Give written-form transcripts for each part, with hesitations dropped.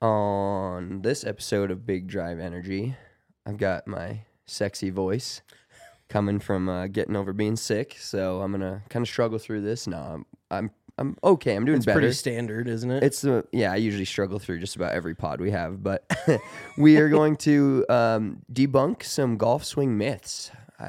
On this episode of Big Drive Energy, I've got my sexy voice coming from getting over being sick, so I'm gonna kind of struggle through this. No, I'm okay. I'm doing It's better. pretty standard, isn't it? It's I usually struggle through just about every pod we have, but we are going to debunk some golf swing myths.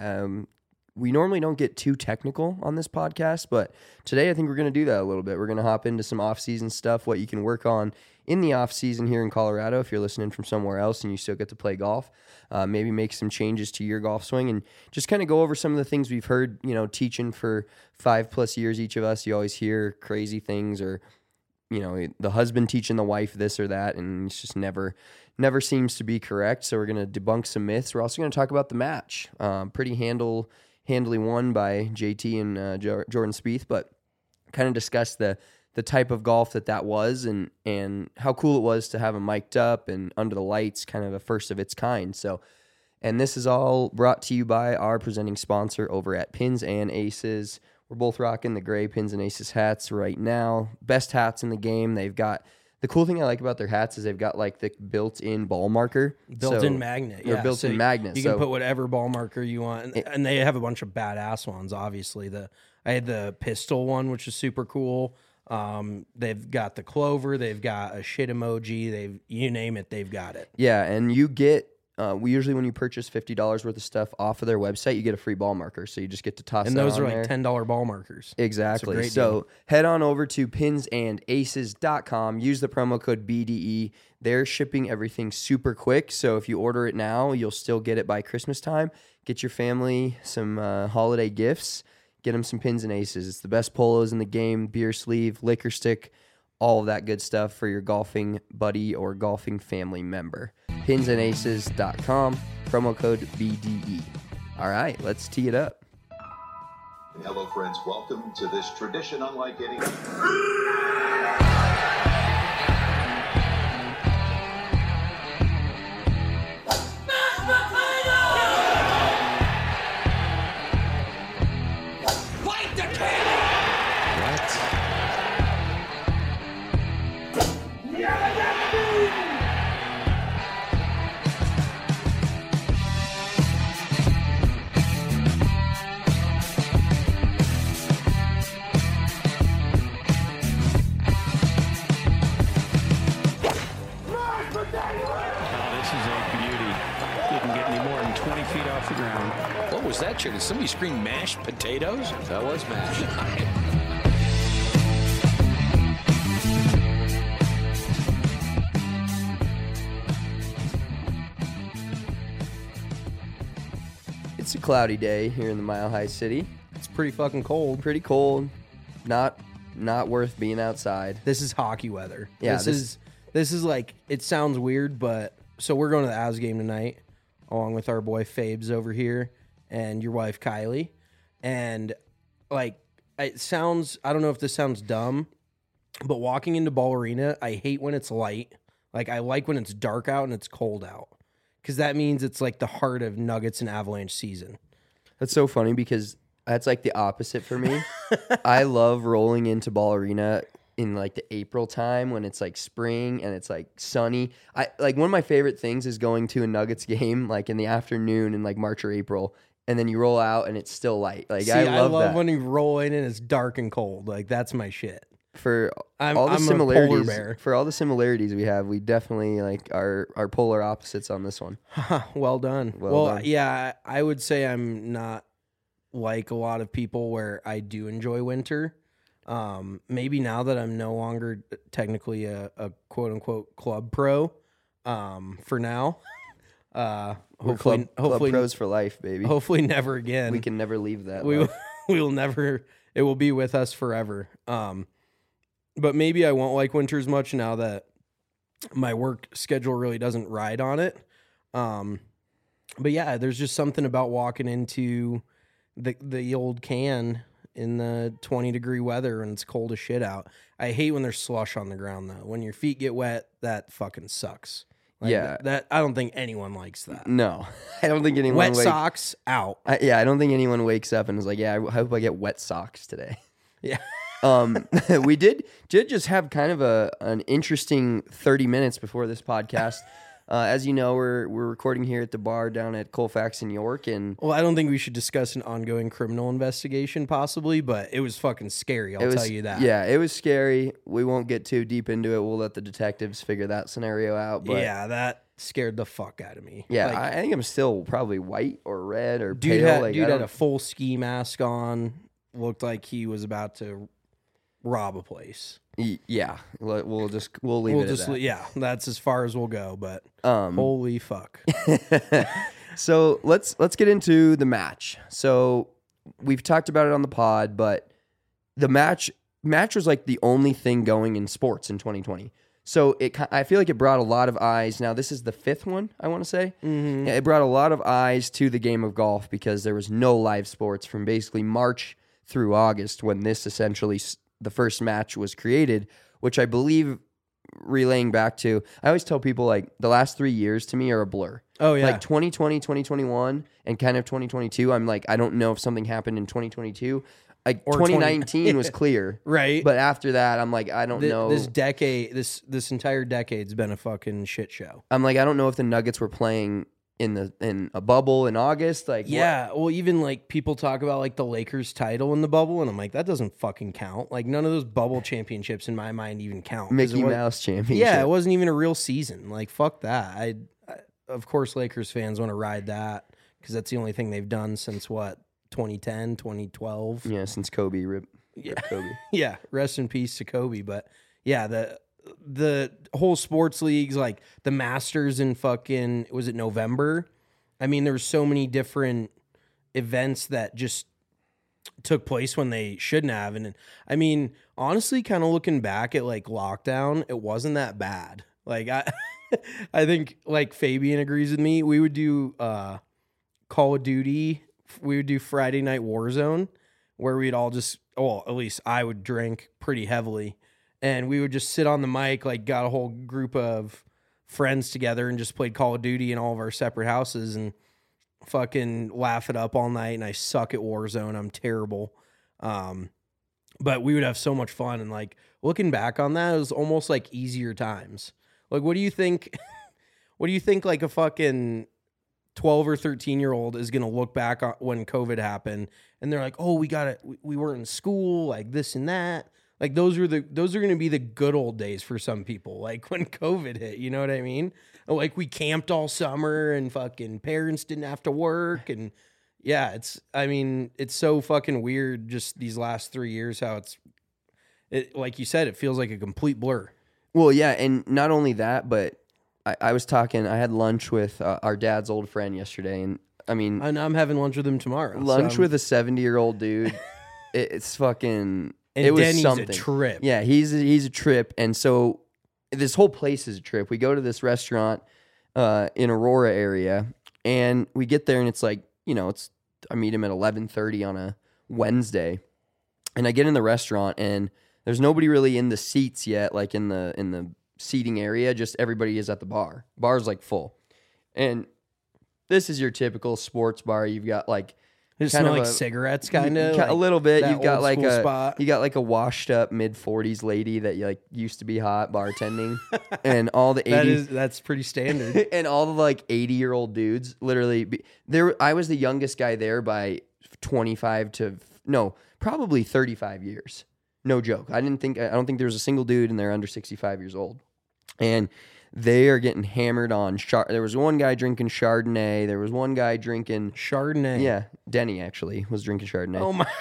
We normally don't get too technical on this podcast, but today I think we're going to do that a little bit. We're going to hop into some off-season stuff, what you can work on in the off-season here in Colorado if you're listening from somewhere else and you still get to play golf. Maybe make some changes to your golf swing and just kind of go over some of the things we've heard, teaching for 5+ years each of us. You always hear crazy things or, the husband teaching the wife this or that, and it's just never seems to be correct. So we're going to debunk some myths. We're also going to talk about the match. Pretty handily won by JT and Jordan Spieth, but kind of discuss the type of golf that was and how cool it was to have them mic'd up and under the lights, kind of a first of its kind. So, and this is all brought to you by our presenting sponsor over at Pins and Aces. We're both rocking the gray Pins and Aces hats right now. Best hats in the game. They've got, the cool thing I like about their hats is they've got like the built-in ball marker. Built-in magnet. Or built-in magnet. You can put whatever ball marker you want. And they have a bunch of badass ones, obviously. I had the pistol one, which is super cool. They've got the clover, they've got a shit emoji, you name it, they've got it. Yeah, and you get we usually, when you purchase $50 worth of stuff off of their website, you get a free ball marker. So you just get to toss and that those on are like there. $10 ball markers. Exactly. So head on over to pinsandaces.com. Use the promo code BDE. They're shipping everything super quick. So if you order it now, you'll still get it by Christmas time. Get your family some holiday gifts. Get them some Pins and Aces. It's the best polos in the game, beer sleeve, liquor stick, all of that good stuff for your golfing buddy or golfing family member. Pinsandaces.com, promo code BDE. All right, let's tee it up. Hello, friends. Welcome to this tradition unlike any. What was that, chicken? Did somebody scream mashed potatoes? That was mashed. It's a cloudy day here in the Mile High City. It's pretty fucking cold. Pretty cold. Not worth being outside. This is hockey weather. Yeah, this is like, it sounds weird, but so we're going to the Avs game tonight, along with our boy Fabes over here and your wife Kylie. And like, it sounds, I don't know if this sounds dumb, but walking into Ball Arena, I hate when it's light. Like, I like when it's dark out and it's cold out, because that means it's like the heart of Nuggets and Avalanche season. That's so funny because that's like the opposite for me. I love rolling into Ball Arena in like the April time when it's like spring and it's like sunny. I like, one of my favorite things is going to a Nuggets game like in the afternoon in like March or April, and then you roll out and it's still light. Like, See, I love that. when you roll in and it's dark and cold. Like, that's my shit. For I'm all the a polar similarities, bear. for all the similarities we have, we definitely like our polar opposites on this one. Well done. Well done. Yeah, I would say I'm not like a lot of people where I do enjoy winter. Maybe now that I'm no longer technically a quote unquote club pro, for now, hopefully Club pros for life, baby. Hopefully never again. We can never leave that. We will never, it will be with us forever. But maybe I won't like winter as much now that my work schedule really doesn't ride on it. But yeah, there's just something about walking into the old can in the 20-degree weather and it's cold as shit out. I hate when there's slush on the ground, though. When your feet get wet, that fucking sucks. Like, yeah. That I don't think anyone likes that. No, I don't think anyone Wet socks out. I don't think anyone wakes up and is like, yeah, I hope I get wet socks today. Yeah. We did just have kind of an interesting 30 minutes before this podcast. As you know, we're recording here at the bar down at Colfax in York, and Well, I don't think we should discuss an ongoing criminal investigation, possibly, but it was fucking scary. I'll tell you that. Yeah, it was scary. We won't get too deep into it. We'll let the detectives figure that scenario out. But Yeah, that scared the fuck out of me. yeah, Like, I think I'm still probably white or red or dude pale. had, I dude had don't- a full ski mask on. Looked like he was about to rob a place. Yeah, we'll leave it at that. Yeah, that's as far as we'll go. But Um, holy fuck. So let's get into the match. So we've talked about it on the pod, but the match was like the only thing going in sports in 2020. So I feel like it brought a lot of eyes. Now this is the fifth one, I want to say. Mm-hmm. Yeah, it brought a lot of eyes to the game of golf because there was no live sports from basically March through August when this essentially the first match was created, which I believe, relaying back to, I always tell people like the last 3 years to me are a blur. Oh, yeah. Like 2020, 2021, and kind of 2022. I'm like, I don't know if something happened in 2022. Like Or 2019 was clear. Right. But after that, I'm like, I don't know. This decade, this entire decade's been a fucking shit show. I'm like, I don't know if the Nuggets were playing in a bubble in August. Like, Yeah, well, even like people talk about like the Lakers title in the bubble, and I'm like, that doesn't fucking count. Like none of those bubble championships in my mind even count. 'Cause Mickey it wa- Mouse championship. Yeah, it wasn't even a real season. Like fuck that. I of course Lakers fans want to ride that because that's the only thing they've done since what 2010, 2012. Yeah, since Kobe rip Kobe. Yeah, rest in peace to Kobe. But yeah, the whole sports leagues, like the Masters in fucking, was it November? I mean, there were so many different events that just took place when they shouldn't have. And I mean, honestly, kind of looking back at like lockdown, it wasn't that bad. Like I think like Fabian agrees with me. We would do Call of Duty. We would do Friday Night Warzone, where we'd all just, well, at least I would drink pretty heavily, and we would just sit on the mic, like got a whole group of friends together and just played Call of Duty in all of our separate houses and fucking laugh it up all night. And I suck at Warzone. I'm terrible. But we would have so much fun. And like looking back on that, it was almost like easier times. Like, what do you think? What do you think like a fucking 12 or 13-year-old is going to look back on when COVID happened and they're like, oh, we weren't in school, like this and that. Like those are going to be the good old days for some people. Like when COVID hit, you know what I mean? Like we camped all summer and fucking parents didn't have to work. And yeah, it's so fucking weird just these last 3 years, how it, like you said, it feels like a complete blur. Well, yeah, and not only that, but I had lunch with our dad's old friend yesterday, and I mean, And I'm having lunch with him tomorrow. lunch so- with a 70-year-old dude. It's fucking. And it was Denny's something. a trip. Yeah, he's a trip, and so this whole place is a trip. We go to this restaurant in Aurora area, and we get there, and it's like, you know, I meet him at 11:30 on a Wednesday, and I get in the restaurant, and there's nobody really in the seats yet, like in the seating area. Just everybody is at the bar. Bar's like full, and this is your typical sports bar. You've got like. It kind smell of like cigarettes, kind of a little bit. that You've got old like school a spot. you got like a washed up mid-40s lady that like used to be hot bartending, and all the 80s That's pretty standard. and all the like 80-year-old dudes. Literally, there I was the youngest guy there by 25 to probably 35 years. No joke. I don't think there was a single dude in there under 65 years old, and they are getting hammered on. There was one guy drinking Chardonnay. There was one guy drinking Chardonnay. Yeah, Denny actually was drinking Chardonnay. Oh my.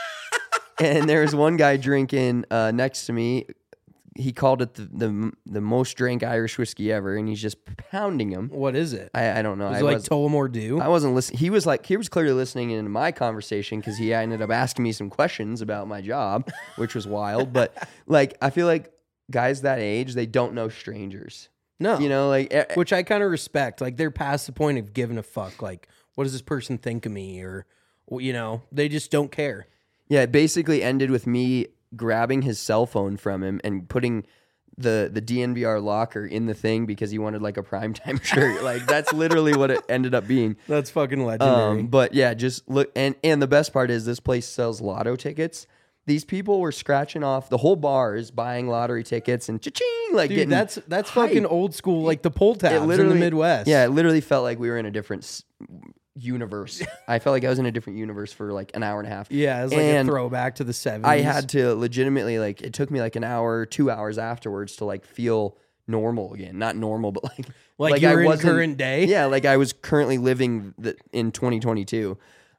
And there was one guy drinking next to me. He called it the most drank Irish whiskey ever, and he's just pounding him. What is it? I don't know. Is it like Tullamore Dew? I wasn't listening. He was clearly listening into my conversation because he ended up asking me some questions about my job, which was wild. But like, I feel like guys that age, they don't know strangers. No. You know, like Which I kind of respect. Like they're past the point of giving a fuck. Like, what does this person think of me? Or, you know, they just don't care. Yeah, it basically ended with me grabbing his cell phone from him and putting the DNVR locker in the thing because he wanted like a primetime shirt. Like that's literally what it ended up being. That's fucking legendary. But yeah, just look, and the best part is this place sells lotto tickets. these people were scratching off the whole bar is buying lottery tickets and cha-ching, like Dude, getting that's hype. fucking old school, like the pull tabs in the Midwest. Yeah, it literally felt like we were in a different universe. I felt like I was in a different universe for like an hour and a half. Yeah, it was like And a throwback to the 70s. I had to legitimately, like, it took me like an hour, 2 hours afterwards to like feel normal again. Not normal, but like you were in wasn't- current day? Yeah, like I was currently living in 2022.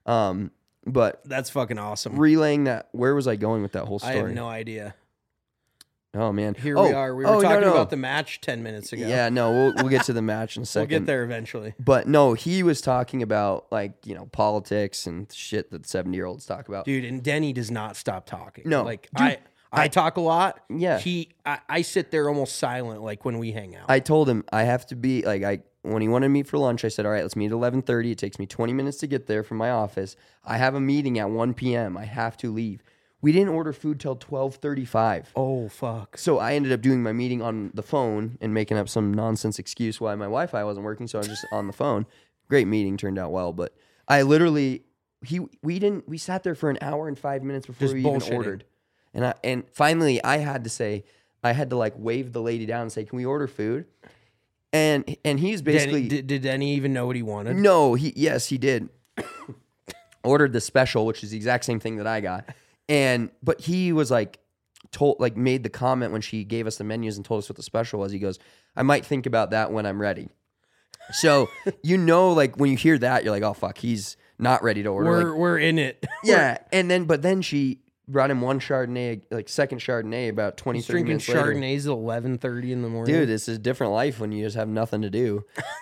But That's fucking awesome. relaying that, where was I going with that whole I story? have no idea. Oh man, Here we are. We were talking about the match 10 minutes ago. Yeah, no, we'll get to the match in a We'll second. get there eventually. But no, he was talking about like, politics and shit that 70-year-olds talk about. Dude, and Denny does not stop talking. No. Like, Dude, I talk a lot. Yeah. I sit there almost silent, like when we hang out. I told him I have to be like when he wanted to meet for lunch, I said, all right, let's meet at 11:30. It takes me 20 minutes to get there from my office. I have a meeting at 1 p.m. I have to leave. We didn't order food till 12:35. Oh, fuck. So I ended up doing my meeting on the phone and making up some nonsense excuse why my Wi-Fi wasn't working. So I was just on the phone. Great meeting, turned out well. But I literally, we sat there for an hour and 5 minutes before Just we even bullshitting. ordered. And finally I had to like wave the lady down and say, can we order food? And he's basically, Did Denny even know what he wanted? no, yes, he did. Ordered the special, which is the exact same thing that I got. But he was like made the comment when she gave us the menus and told us what the special was. He goes, I might think about that when I'm ready. So, like when you hear that, you're like, oh fuck, he's not ready to order. We're in it. Yeah. But then she brought him one Chardonnay, like second Chardonnay about 20, He's 30 drinking minutes later. Chardonnays at 11:30 in the morning. Dude, this is a different life when you just have nothing to do.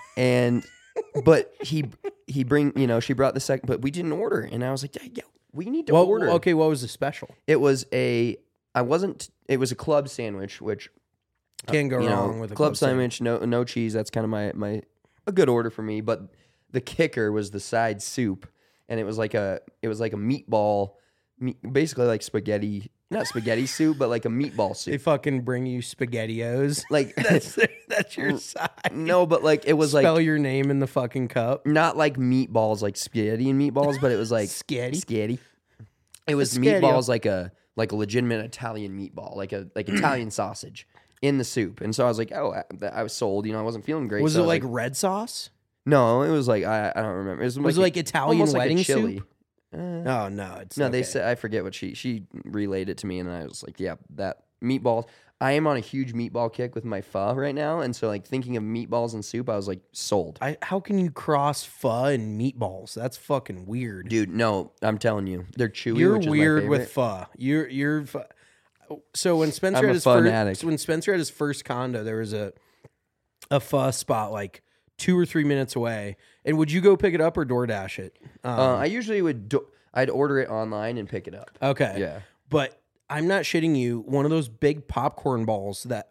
But she brought the second, but we didn't order. And I was like, yeah, we need to order. Okay, what was the special? It was it was a club sandwich, which Can't go wrong with a club sandwich, no cheese. That's kind of my a good order for me. But the kicker was the side soup, and it was like a meatball, basically like spaghetti, not spaghetti soup, but like a meatball soup. They fucking bring you SpaghettiOs. Like That's your side. no, but like it was Spell like your name in the fucking cup. not like meatballs, like spaghetti and meatballs, but it was like Sketty? It was Spaghetti. meatballs like a legitimate Italian meatball, like Italian sausage in the soup. And so I was like, oh, I was sold. I wasn't feeling great. Was so it I like red sauce? No, it was like I don't remember. It Was it like Italian almost like a wedding chili. soup? Oh no, it's No, okay. they said I forget what she relayed it to me, and I was like, yeah, that meatballs. I am on a huge meatball kick with my pho right now, and so like thinking of meatballs and soup, I was like sold. How can you cross pho and meatballs? That's fucking weird. Dude, no, I'm telling you, they're chewy. You're which is my weird with favorite. pho. You're pho. So when Spencer I'm had a his fanatic. first, when Spencer had his first condo, there was a pho spot like 2 or 3 minutes away. And would you go pick it up or DoorDash it? I usually I'd order it online and pick it up. Okay. Yeah. But I'm not shitting you. One of those big popcorn bowls that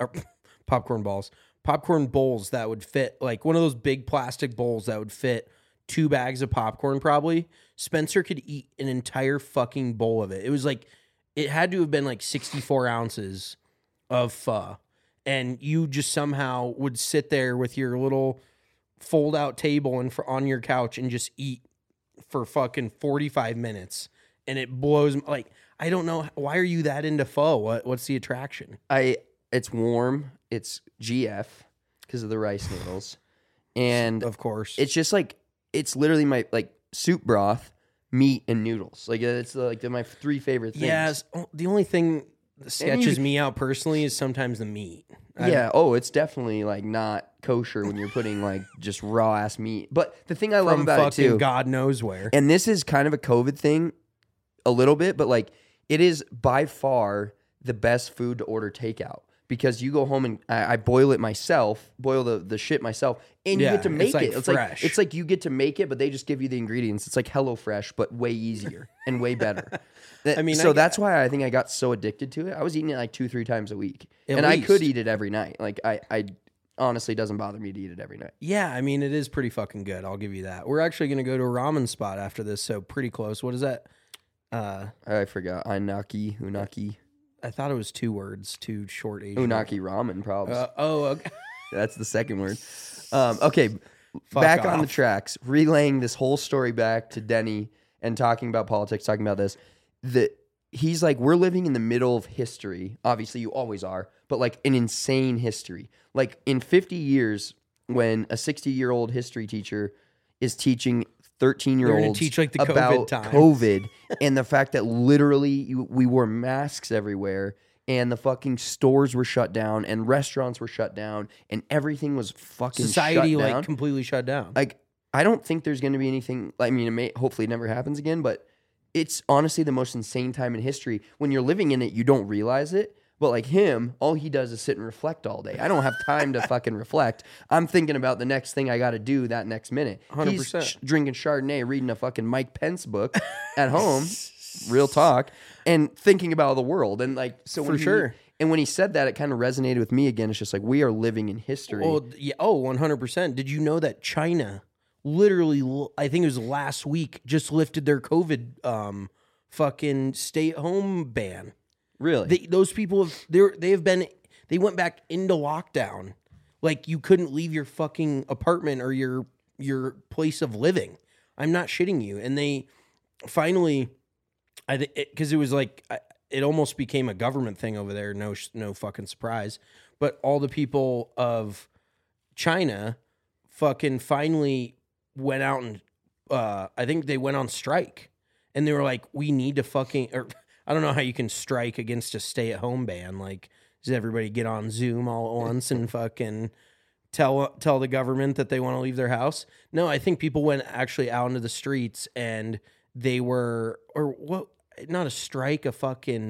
would fit, like one of those big plastic bowls that would fit 2 bags of popcorn probably. Spencer could eat an entire fucking bowl of it. It was like, it had to have been like 64 ounces of pho. And you just somehow would sit there with your little fold out table on your couch and just eat for fucking 45 minutes. And it blows, like, I don't know. Why are you that into pho? What's the attraction? It's warm. It's GF because of the rice noodles, and Of course. it's just like it's literally my like soup broth, meat, and noodles. Like it's like my 3 favorite things. Yes. The only thing that sketches me out personally is sometimes the meat. Yeah. Oh, it's definitely like not kosher when you're putting like just raw ass meat. But the thing I love From about it fucking too, God knows where. and this is kind of a COVID thing, a little bit, but like it is by far the best food to order takeout. Because you go home and I boil it myself, boil the shit myself, and you Yeah, get to make it's like it. It's fresh. it's like you get to make it, but they just give you the ingredients. It's like HelloFresh, but way easier and way better. mean, so I- that's why I think I got so addicted to it. I was eating it like 2-3 times a week, At and I could least. eat it every night. Like I honestly doesn't bother me to eat it every night. Yeah, I mean, it is pretty fucking good. I'll give you that. We're actually going to go to a ramen spot after this, so pretty close. What is that? I forgot unagi. I thought it was 2 words, 2 short Asian. Unagi ramen probs. Okay. That's the second word. Okay, Fuck back on the off. tracks, relaying this whole story back to Denny and talking about politics, talking about this. he's like, we're living in the middle of history. Obviously, you always are, but like an insane history. Like in 50 years, when a 60-year-old history teacher is teaching 13-year-olds teach, like, the COVID about times. COVID and the fact that literally we wore masks everywhere and the fucking stores were shut down and restaurants were shut down and everything was fucking Society shut down. like completely shut down. Like, I don't think there's going to be anything. I mean, hopefully it never happens again, but it's honestly the most insane time in history. When you're living in it, you don't realize it. But like him, all he does is sit and reflect all day. I don't have time to fucking reflect. I'm thinking about the next thing I got to do that next minute. 100%. He's drinking Chardonnay, reading a fucking Mike Pence book at home, real talk, and thinking about the world. And like, so For sure. And when he said that, it kind of resonated with me again. It's just like, we are living in history. Well, yeah, 100%. Did you know that China literally, I think it was last week, just lifted their COVID fucking stay-at-home ban? Really? Those people they went back into lockdown. Like, you couldn't leave your fucking apartment or your place of living. I'm not shitting you. And they finally, because it was like, it almost became a government thing over there. No fucking surprise. But all the people of China fucking finally went out and I think they went on strike. And they were like, we need to fucking, or I don't know how you can strike against a stay-at-home ban. Like, does everybody get on Zoom all at once and fucking tell the government that they want to leave their house? No, I think people went actually out into the streets and they were, or what? Not a strike, a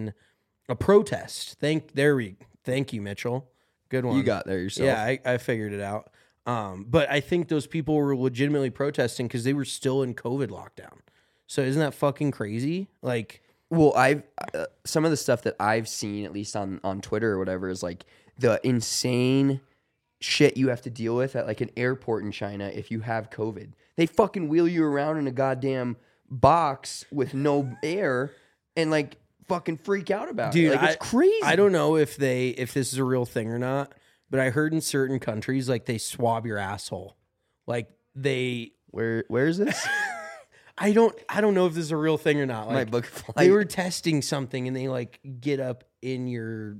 protest. Thank you, Mitchell. Good one. You got there yourself. Yeah, I figured it out. But I think those people were legitimately protesting because they were still in COVID lockdown. So isn't that fucking crazy? Like, well, I've some of the stuff that I've seen, at least on Twitter or whatever, is like the insane shit you have to deal with at like an airport in China if you have COVID. They fucking wheel you around in a goddamn box with no air and like fucking freak out about dude, it. Like, it's crazy. I don't know if this is a real thing or not, but I heard in certain countries like they swab your asshole. Like where is this? I don't know if this is a real thing or not. Like, My book flight. they were testing something and they like get up in your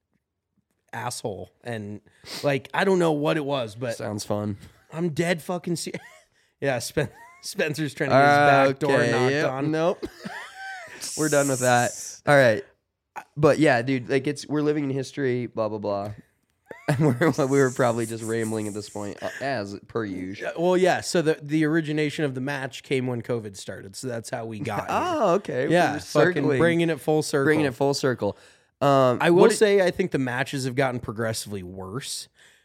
asshole and like I don't know what it was, but Sounds fun. I'm dead fucking serious. Yeah, Spencer's trying to get his back door knocked on. Nope. We're done with that. All right. But yeah, dude, like we're living in history, blah blah blah. We were probably just rambling at this point, as per usual. Well, yeah. So the origination of the match came when COVID started. So that's how we got. Oh, okay. Yeah, We're fucking bringing it full circle. Bringing it full circle. I will say, I think the matches have gotten progressively worse.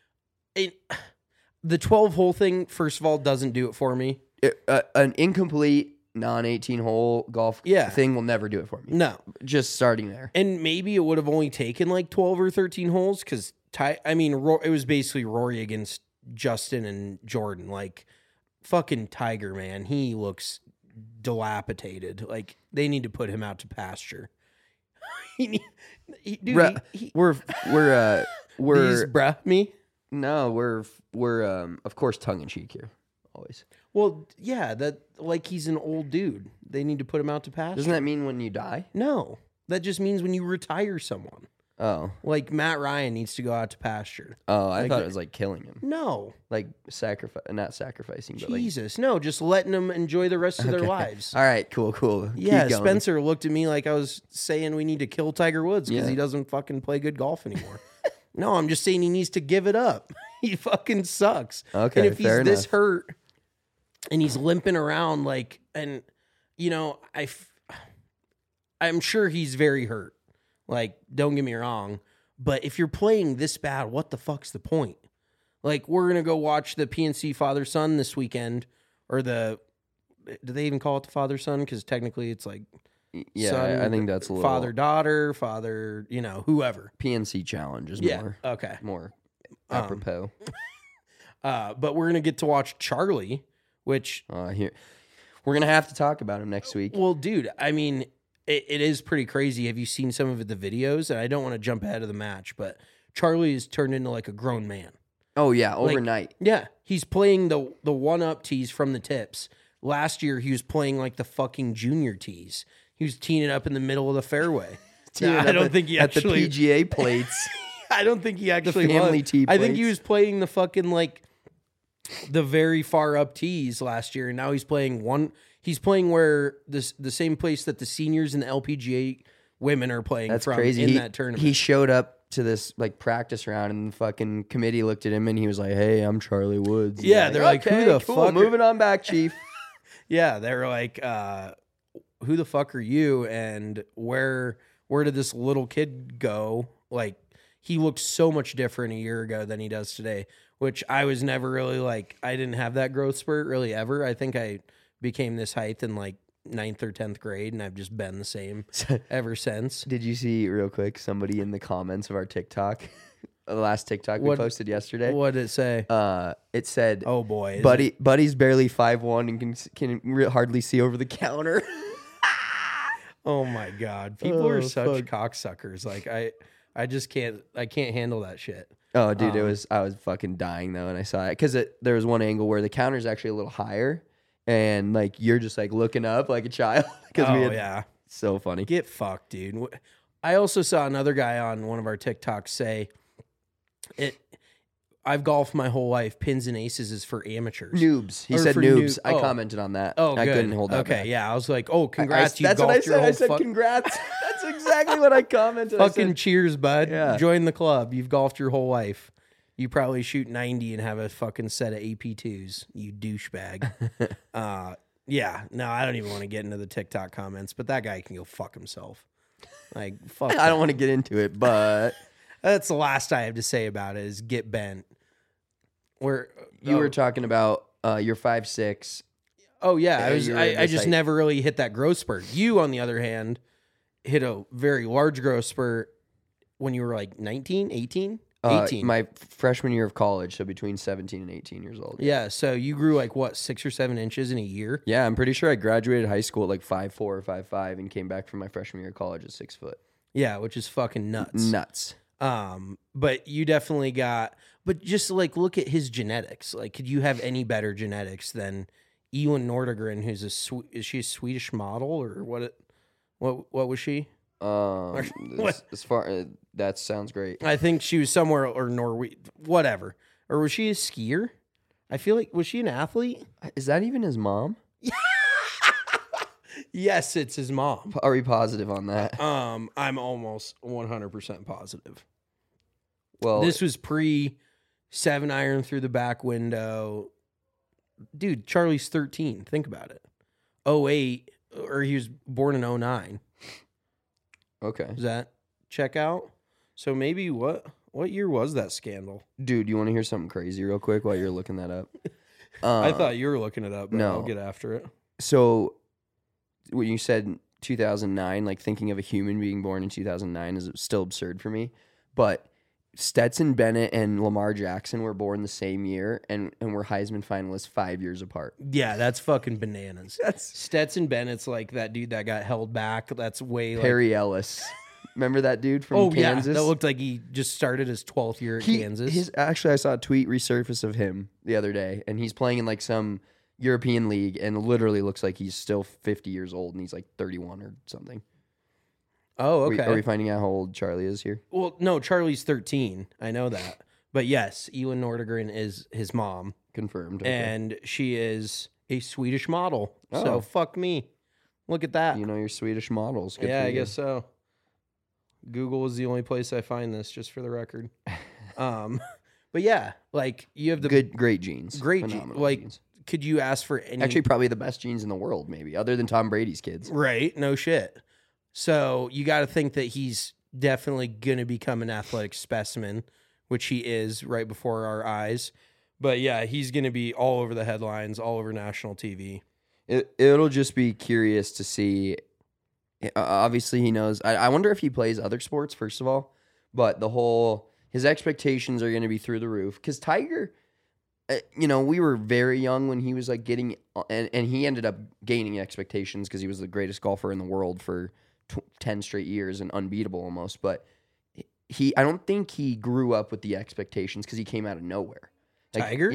The 12-hole thing, first of all, doesn't do it for me. An incomplete non-18 hole golf thing will never do it for me. No. Just starting there. And maybe it would have only taken like 12 or 13 holes because, it was basically Rory against Justin and Jordan. Like, fucking Tiger, man. He looks dilapidated. Like, they need to put him out to pasture. We're me? No, we're of course tongue in cheek here. Always. Well, yeah, that like he's an old dude. They need to put him out to pasture. Doesn't that mean when you die? No. That just means when you retire someone. Oh. Like Matt Ryan needs to go out to pasture. Oh, I thought it was like killing him. No. Like not sacrificing, but Jesus, no, just letting them enjoy the rest of their lives. All right, cool. Yeah, Keep going. Spencer looked at me like I was saying we need to kill Tiger Woods because he doesn't fucking play good golf anymore. No, I'm just saying he needs to give it up. He fucking sucks. Okay, and if he's fair this enough. hurt and he's limping around like, and you know, I'm sure he's very hurt. Like, don't get me wrong, but if you're playing this bad, what the fuck's the point? Like, we're gonna go watch the PNC father-son this weekend, or do they even call it the father-son? Because technically, it's like, yeah, son, I think that's a little father-daughter, whoever. PNC challenge is more apropos. But we're gonna get to watch Charlie, which Here we're gonna have to talk about him next week. well, dude, I mean, it is pretty crazy. Have you seen some of the videos? And I don't want to jump ahead of the match, but Charlie is turned into like a grown man. Oh yeah, overnight. Yeah, he's playing the 1-up tees from the tips. Last year, he was playing like the fucking junior tees. He was teeing it up in the middle of the fairway. Teeing I up don't think he at actually. the PGA plates. I don't think he actually family was. tee I think he plates. was playing the fucking like the very far up tees last year, and now he's playing one. He's playing where the same place that the seniors and the LPGA women are playing That's from crazy. in He- that tournament. He showed up to this like practice round, and the fucking committee looked at him, and he was like, "Hey, I'm Charlie Woods." And Yeah, they're like, "Who the cool, fuck are-" Moving on back, Chief. Yeah, they were like, "Who the fuck are you?" And where did this little kid go? Like, he looked so much different a year ago than he does today. Which I was never really like. I didn't have that growth spurt really ever. I think I became this height in like 9th or 10th grade, and I've just been the same ever since. Did you see real quick somebody in the comments of our TikTok, the last TikTok we What- posted yesterday? What did it say? It said, Oh boy, is Buddy's barely 5'1" and can hardly see over the counter." Oh my god, people are Oh, such fuck. cocksuckers. Like I just can't. I can't handle that shit. Oh, dude, I was fucking dying though, and I saw it because there was one angle where the counter's actually a little higher, and like you're just like looking up like a child because Oh yeah. so funny. Get fucked, dude. I also saw another guy on one of our TikToks say, I've golfed my whole life. Pins and aces is for amateurs. Noobs. He Or said for noobs. noob- I oh. commented on that. Oh, I good. couldn't hold that Okay, back. yeah. I was like, oh, congrats. You That's what I golfed said. your whole I said congrats. That's exactly what I commented. I fucking said, cheers, bud. Yeah. Join the club. You've golfed your whole life. You probably shoot 90 and have a fucking set of AP2s, you douchebag. Yeah, no, I don't even want to get into the TikTok comments, but that guy can go fuck himself. Like, fuck. I don't want to get into it, but That's the last I have to say about it is get bent. Where you were talking about you're 5'6". Oh yeah, you're I this just height. never really hit that growth spurt. You, on the other hand, hit a very large growth spurt when you were like 19, 18? 18. My freshman year of college, so between 17 and 18 years old. Yeah, so you grew like what, 6 or 7 inches in a year? Yeah, I'm pretty sure I graduated high school at like 5'4" or 5'5" and came back from my freshman year of college at 6 foot. Yeah, which is fucking nuts. Nuts. But you definitely got. But just like look at his genetics. Like, could you have any better genetics than Elin Nordegren, who's is she a Swedish model or what? What was she? As far that sounds great. I think she was somewhere or Norway, whatever. Or was she a skier? I feel like was she an athlete? Is that even his mom? Yes, it's his mom. Are we positive on that? I'm almost 100% positive. Well, This was pre 7-iron through the back window. Dude, Charlie's 13. Think about it. 08, or he was born in 09. okay, Does that check out? So maybe what year was that scandal? dude, you want to hear something crazy real quick while you're looking that up? I thought you were looking it up, but no. I'll get after it. So. When you said 2009, like thinking of a human being born in 2009 is still absurd for me. But Stetson Bennett and Lamar Jackson were born the same year and were Heisman finalists 5 years apart. Yeah, that's fucking bananas. That's Stetson Bennett's like that dude that got held back. That's way Perry Ellis. Remember that dude from Oh Kansas? yeah, that looked like he just started his 12th year at Kansas. Actually, I saw a tweet resurface of him the other day, and he's playing in like some European league and literally looks like he's still 50 years old and he's like 31 or something. Oh, Are we- okay. Are we finding out how old Charlie is here? Well, no, Charlie's 13. I know that. But yes, Elin Nordegren is his mom, Confirmed. Okay. and she is a Swedish model. Oh. So fuck me. Look at that. You know your Swedish models. Good Yeah, for I you. guess so. Google is the only place I find this, just for the record. But yeah, like you have the Great genes. great Phenomenal like. genes. Could you ask for any? Actually, probably the best genes in the world, maybe, other than Tom Brady's kids. Right. No shit. So you got to think that he's definitely going to become an athletic specimen, which he is right before our eyes. But yeah, he's going to be all over the headlines, all over national TV. It'll just be curious to see. Obviously, he knows. I wonder if he plays other sports, first of all. But his expectations are going to be through the roof. Because Tiger, we were very young when he was like getting, and he ended up gaining expectations because he was the greatest golfer in the world for 10 straight years and unbeatable almost. But I don't think he grew up with the expectations because he came out of nowhere. Tiger? Yeah.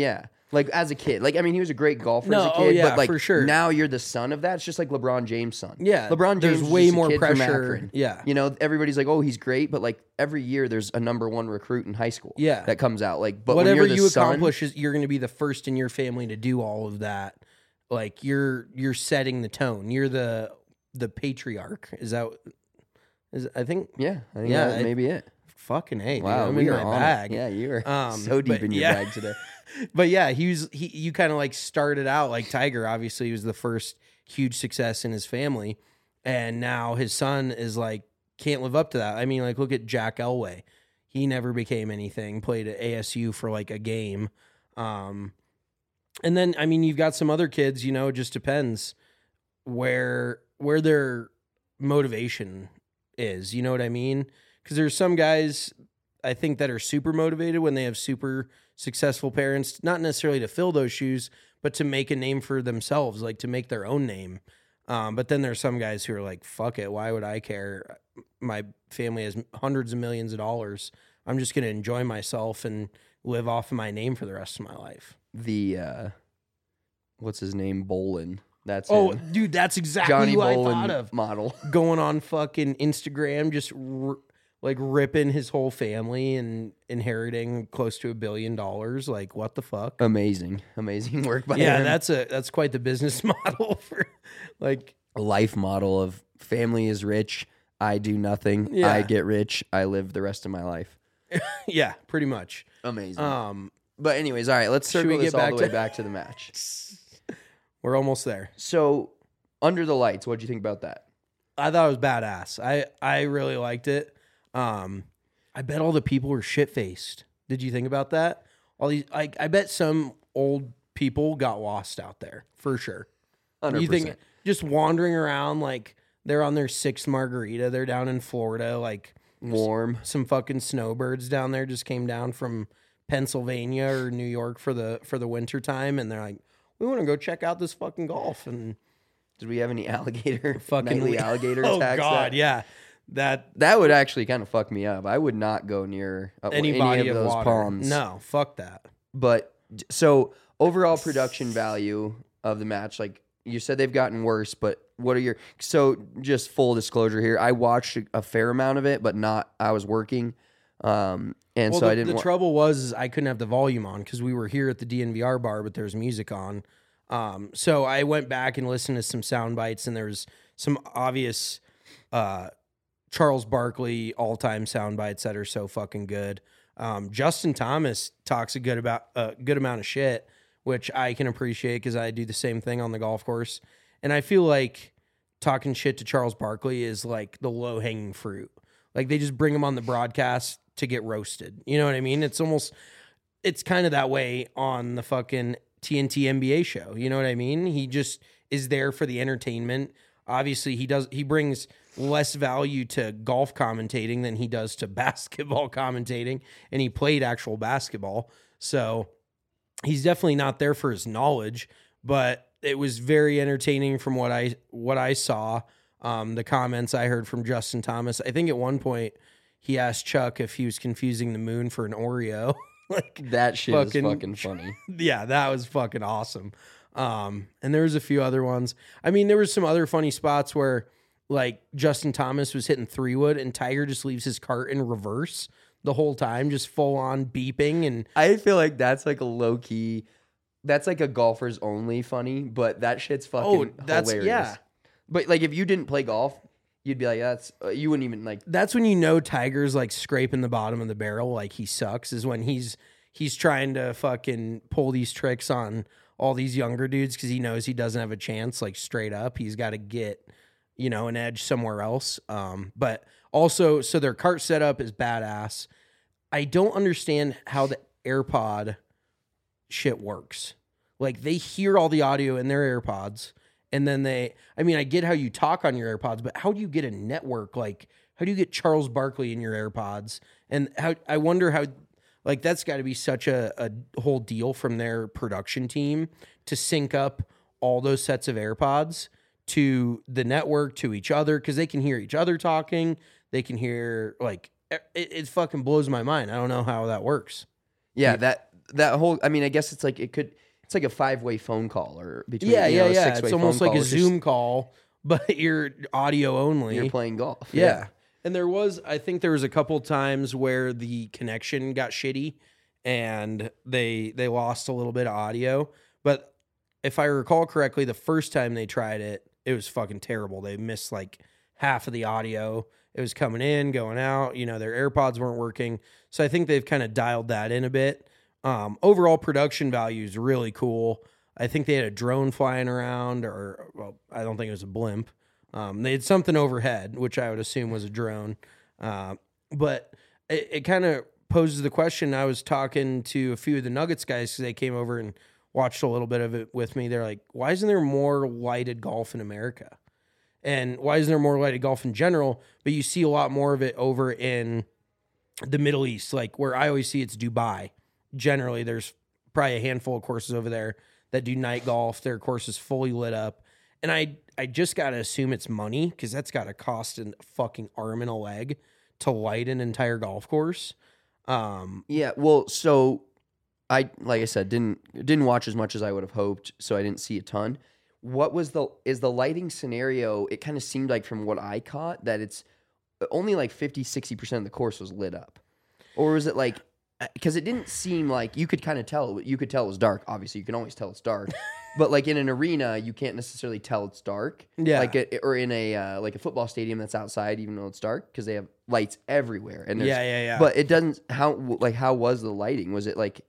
Like as a kid, like I mean, he was a great golfer as No, a oh, kid, yeah, but like for sure. now you're the son of that. It's just like LeBron James' son. Yeah, LeBron James there's is way just a more kid from pressure. Akron. Yeah. you know, everybody's like, oh, he's great, but like every year there's a number one recruit in high school. Yeah. that comes out. Like, but when Whatever you're the you son, accomplish, is you're going to be the first in your family to do all of that. Like you're setting the tone. You're the patriarch. Is that? I think? yeah, I think Yeah, that may be it. Fucking A. Dude. Wow, I'm we in are my on it. bag. Yeah, you are so deep but in your yeah. bag today. But yeah, you kind of like started out like Tiger. Obviously, he was the first huge success in his family, and now his son is like can't live up to that. I mean, like look at Jack Elway. He never became anything. Played at ASU for like a game, and then I mean you've got some other kids. You know, it just depends where their motivation is. You know what I mean? Because there's some guys I think that are super motivated when they have super successful parents, not necessarily to fill those shoes, but to make a name for themselves, like to make their own name. But then there's some guys who are like, fuck it. Why would I care? My family has hundreds of millions of dollars. I'm just going to enjoy myself and live off of my name for the rest of my life. The what's his name? Bolin. That's Oh, him. dude, that's exactly Johnny who I Bolin thought of. model. Going on fucking Instagram, just like ripping his whole family and inheriting close to $1 billion. Like, what the fuck? Amazing work by Yeah, him. that's quite the business model for like. A life model of family is rich. I do nothing. Yeah. I get rich. I live the rest of my life. Yeah, pretty much. Amazing. But anyways, all right, let's Should circle we this get all back the way to- back to the match. We're almost there. So, Under the Lights, what'd you think about that? I thought it was badass. I really liked it. I bet all the people were shit faced. Did you think about that? All these, I bet some old people got lost out there for sure. 100%. You think just wandering around like they're on their sixth margarita? They're down in Florida, like Warm. some fucking snowbirds down there just came down from Pennsylvania or New York for the winter time, and they're like, we want to go check out this fucking golf. And Did we have any alligator? fucking nightly alligator oh attacks? god, that, yeah, that that would actually kind of fuck me up. I would not go near any any body of of those water. ponds. No, fuck that. But so overall production value of the match, like you said, they've gotten worse. But what are your just full disclosure here? I watched a fair amount of it, but not. I was working, and Well, so I the didn't. trouble was I couldn't have the volume on because we were here at the DNVR bar, but there's music on. So I went back and listened to some sound bites, and there was some obvious Charles Barkley all-time sound bites that are so fucking good. Justin Thomas talks a good amount of shit, which I can appreciate because I do the same thing on the golf course. And I feel like talking shit to Charles Barkley is like the low-hanging fruit. Like they just bring him on the broadcast to get roasted. You know what I mean? It's kind of that way on the fucking TNT NBA show. You know what I mean? He just is there for the entertainment. Obviously, he brings less value to golf commentating than he does to basketball commentating, and he played actual basketball. So he's definitely not there for his knowledge, but it was very entertaining from what I saw. The comments I heard from Justin Thomas. I think at one point he asked Chuck if he was confusing the moon for an Oreo. Like that shit is fucking funny. yeah, that was fucking awesome. And there was a few other ones. I mean, there was some other funny spots where like Justin Thomas was hitting 3-wood and Tiger just leaves his cart in reverse the whole time, just full on beeping. And I feel like that's like a low key. That's like a golfer's only funny, but that shit's fucking hilarious. yeah. But like if you didn't play golf, you'd be like, that's you wouldn't even like. That's when you know Tiger's like scraping the bottom of the barrel, like he sucks, is when he's trying to fucking pull these tricks on all these younger dudes because he knows he doesn't have a chance, like straight up. He's got to get, an edge somewhere else. But also, so their cart setup is badass. I don't understand how the AirPod shit works. Like they hear all the audio in their AirPods. And then I get how you talk on your AirPods, but how do you get a network? Like, how do you get Charles Barkley in your AirPods? And I wonder how, like, that's got to be such a whole deal from their production team to sync up all those sets of AirPods to the network, to each other, because they can hear each other talking. They can hear, like, it fucking blows my mind. I don't know how that works. Yeah, that that whole. I mean, I guess it's like it's like a 5-way phone call or between Yeah, you know, a yeah. 6-way It's almost phone like call. a It's just- Zoom call, but you're audio only. You're playing golf. Yeah. And I think there was a couple times where the connection got shitty and they lost a little bit of audio. But if I recall correctly, the first time they tried it, it was fucking terrible. They missed like half of the audio. It was coming in, going out. You know, their AirPods weren't working. So I think they've kind of dialed that in a bit. Overall production value is really cool. I think they had a drone flying around, well, I don't think it was a blimp. They had something overhead, which I would assume was a drone. But it kind of poses the question. I was talking to a few of the Nuggets guys because they came over and watched a little bit of it with me. They're like, why isn't there more lighted golf in America? And why isn't there more lighted golf in general? But you see a lot more of it over in the Middle East, like where I always see it's Dubai. Generally, there's probably a handful of courses over there that do night golf. Their course is fully lit up. And I just got to assume it's money because that's got to cost a fucking arm and a leg to light an entire golf course. Yeah, well, so like I said, didn't watch as much as I would have hoped, so I didn't see a ton. What was the lighting scenario? It kind of seemed like from what I caught that it's only like 50-60% of the course was lit up. Or was it like, because it didn't seem like you could kind of tell. You could tell it was dark. Obviously, you can always tell it's dark. But like in an arena, you can't necessarily tell it's dark. Yeah. Like or in a like a football stadium that's outside, even though it's dark, because they have lights everywhere. And Yeah. But it doesn't. How was the lighting? Was it like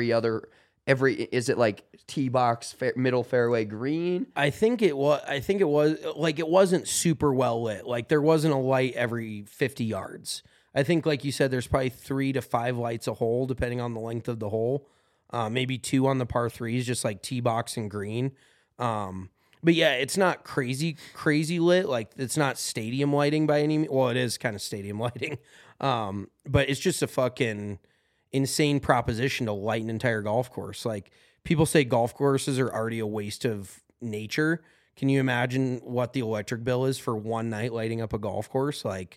is it like tee box middle fairway green? I think it was like it wasn't super well lit. Like there wasn't a light every 50 yards. I think, like you said, there's probably 3 to 5 lights a hole, depending on the length of the hole. Maybe 2 on the par 3s, just like tee box and green. But yeah, it's not crazy lit. Like it's not stadium lighting by any means. Well, it is kind of stadium lighting. But it's just a fucking insane proposition to light an entire golf course. Like people say golf courses are already a waste of nature. Can you imagine what the electric bill is for one night lighting up a golf course? Like,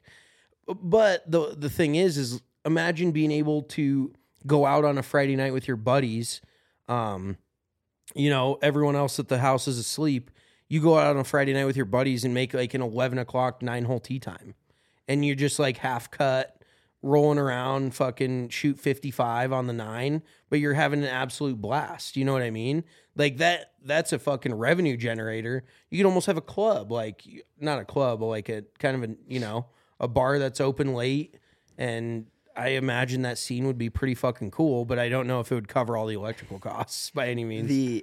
but the thing is imagine being able to go out on a Friday night with your buddies. You know, everyone else at the house is asleep. You go out on a Friday night with your buddies and make like an 11 o'clock 9-hole tee time. And you're just like half cut, rolling around, fucking shoot 55 on the 9, but you're having an absolute blast. You know what I mean? Like that's a fucking revenue generator. You could almost have a club, like not a club, but like a kind of a, you know, a bar that's open late. And I imagine that scene would be pretty fucking cool, but I don't know if it would cover all the electrical costs by any means.